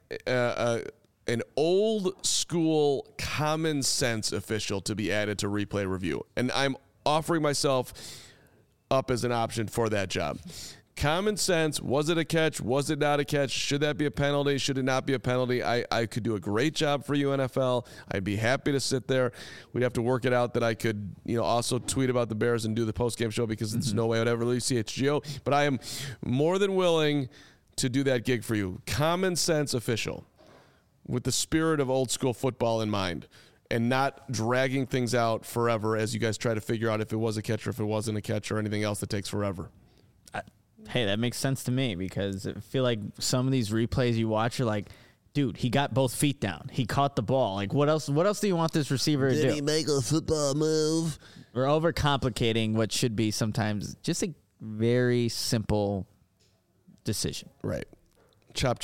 an old school common sense official to be added to replay review. And I'm offering myself up as an option for that job. Common sense. Was it a catch? Was it not a catch? Should that be a penalty? Should it not be a penalty? I could do a great job for you, NFL. I'd be happy to sit there. We'd have to work it out that I could, also tweet about the Bears and do the post-game show because there's no way I would ever leave CHGO. But I am more than willing to do that gig for you. Common sense official with the spirit of old school football in mind and not dragging things out forever as you guys try to figure out if it was a catch or if it wasn't a catch or anything else that takes forever. Hey, that makes sense to me because I feel like some of these replays you watch are like, dude, he got both feet down. He caught the ball. Like, what else do you want this receiver to do? Did he make a football move? We're overcomplicating what should be sometimes just a very simple decision. Right. Chop, chop.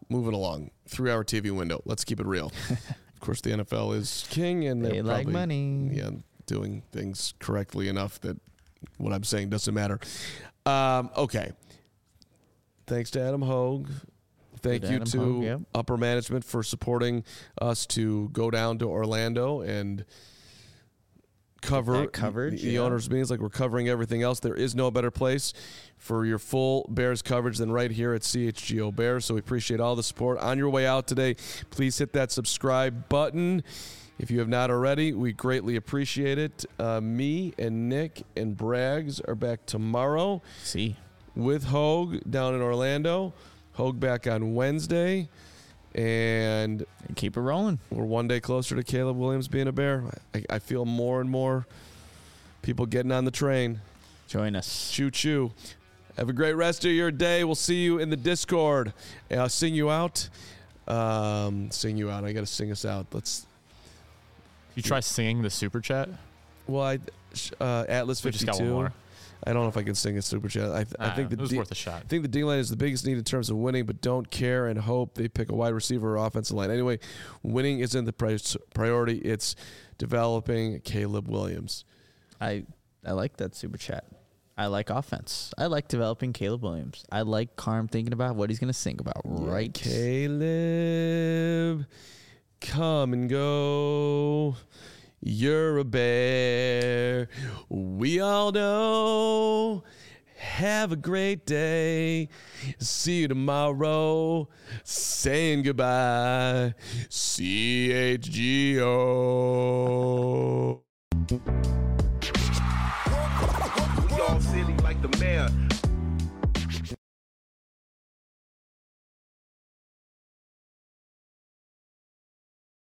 moving along. 3-hour TV window. Let's keep it real. Of course, the NFL is king, and they they're like probably, money. Yeah, doing things correctly enough that what I'm saying doesn't matter. Okay. Thanks to Adam Hogue. Thank you to Hogue, yep. upper management for supporting us to go down to Orlando and cover coverage, the owners' meetings like we're covering everything else. There is no better place for your full Bears coverage than right here at CHGO Bears. So we appreciate all the support. On your way out today, please hit that subscribe button. If you have not already, we greatly appreciate it. Me and Nick and Braggs are back tomorrow. With Hogue down in Orlando. Hogue back on Wednesday. And keep it rolling. We're one day closer to Caleb Williams being a Bear. I feel more and more people getting on the train. Join us. Choo-choo. Have a great rest of your day. We'll see you in the Discord. I'll sing you out. Sing you out. I got to sing us out. Let's. You try singing the super chat? Well, Atlas 52. We just got one more. I don't know if I can sing a super chat. I think it was worth a shot. I think the D-line is the biggest need in terms of winning, but don't care and hope they pick a wide receiver or offensive line. Anyway, winning isn't the priority. It's developing Caleb Williams. I like that super chat. I like offense. I like developing Caleb Williams. I like Carm thinking about what he's going to sing about right. Caleb, come and go. You're a Bear. We all know. Have a great day. See you tomorrow. Saying goodbye. CHGO. We all silly like the mayor.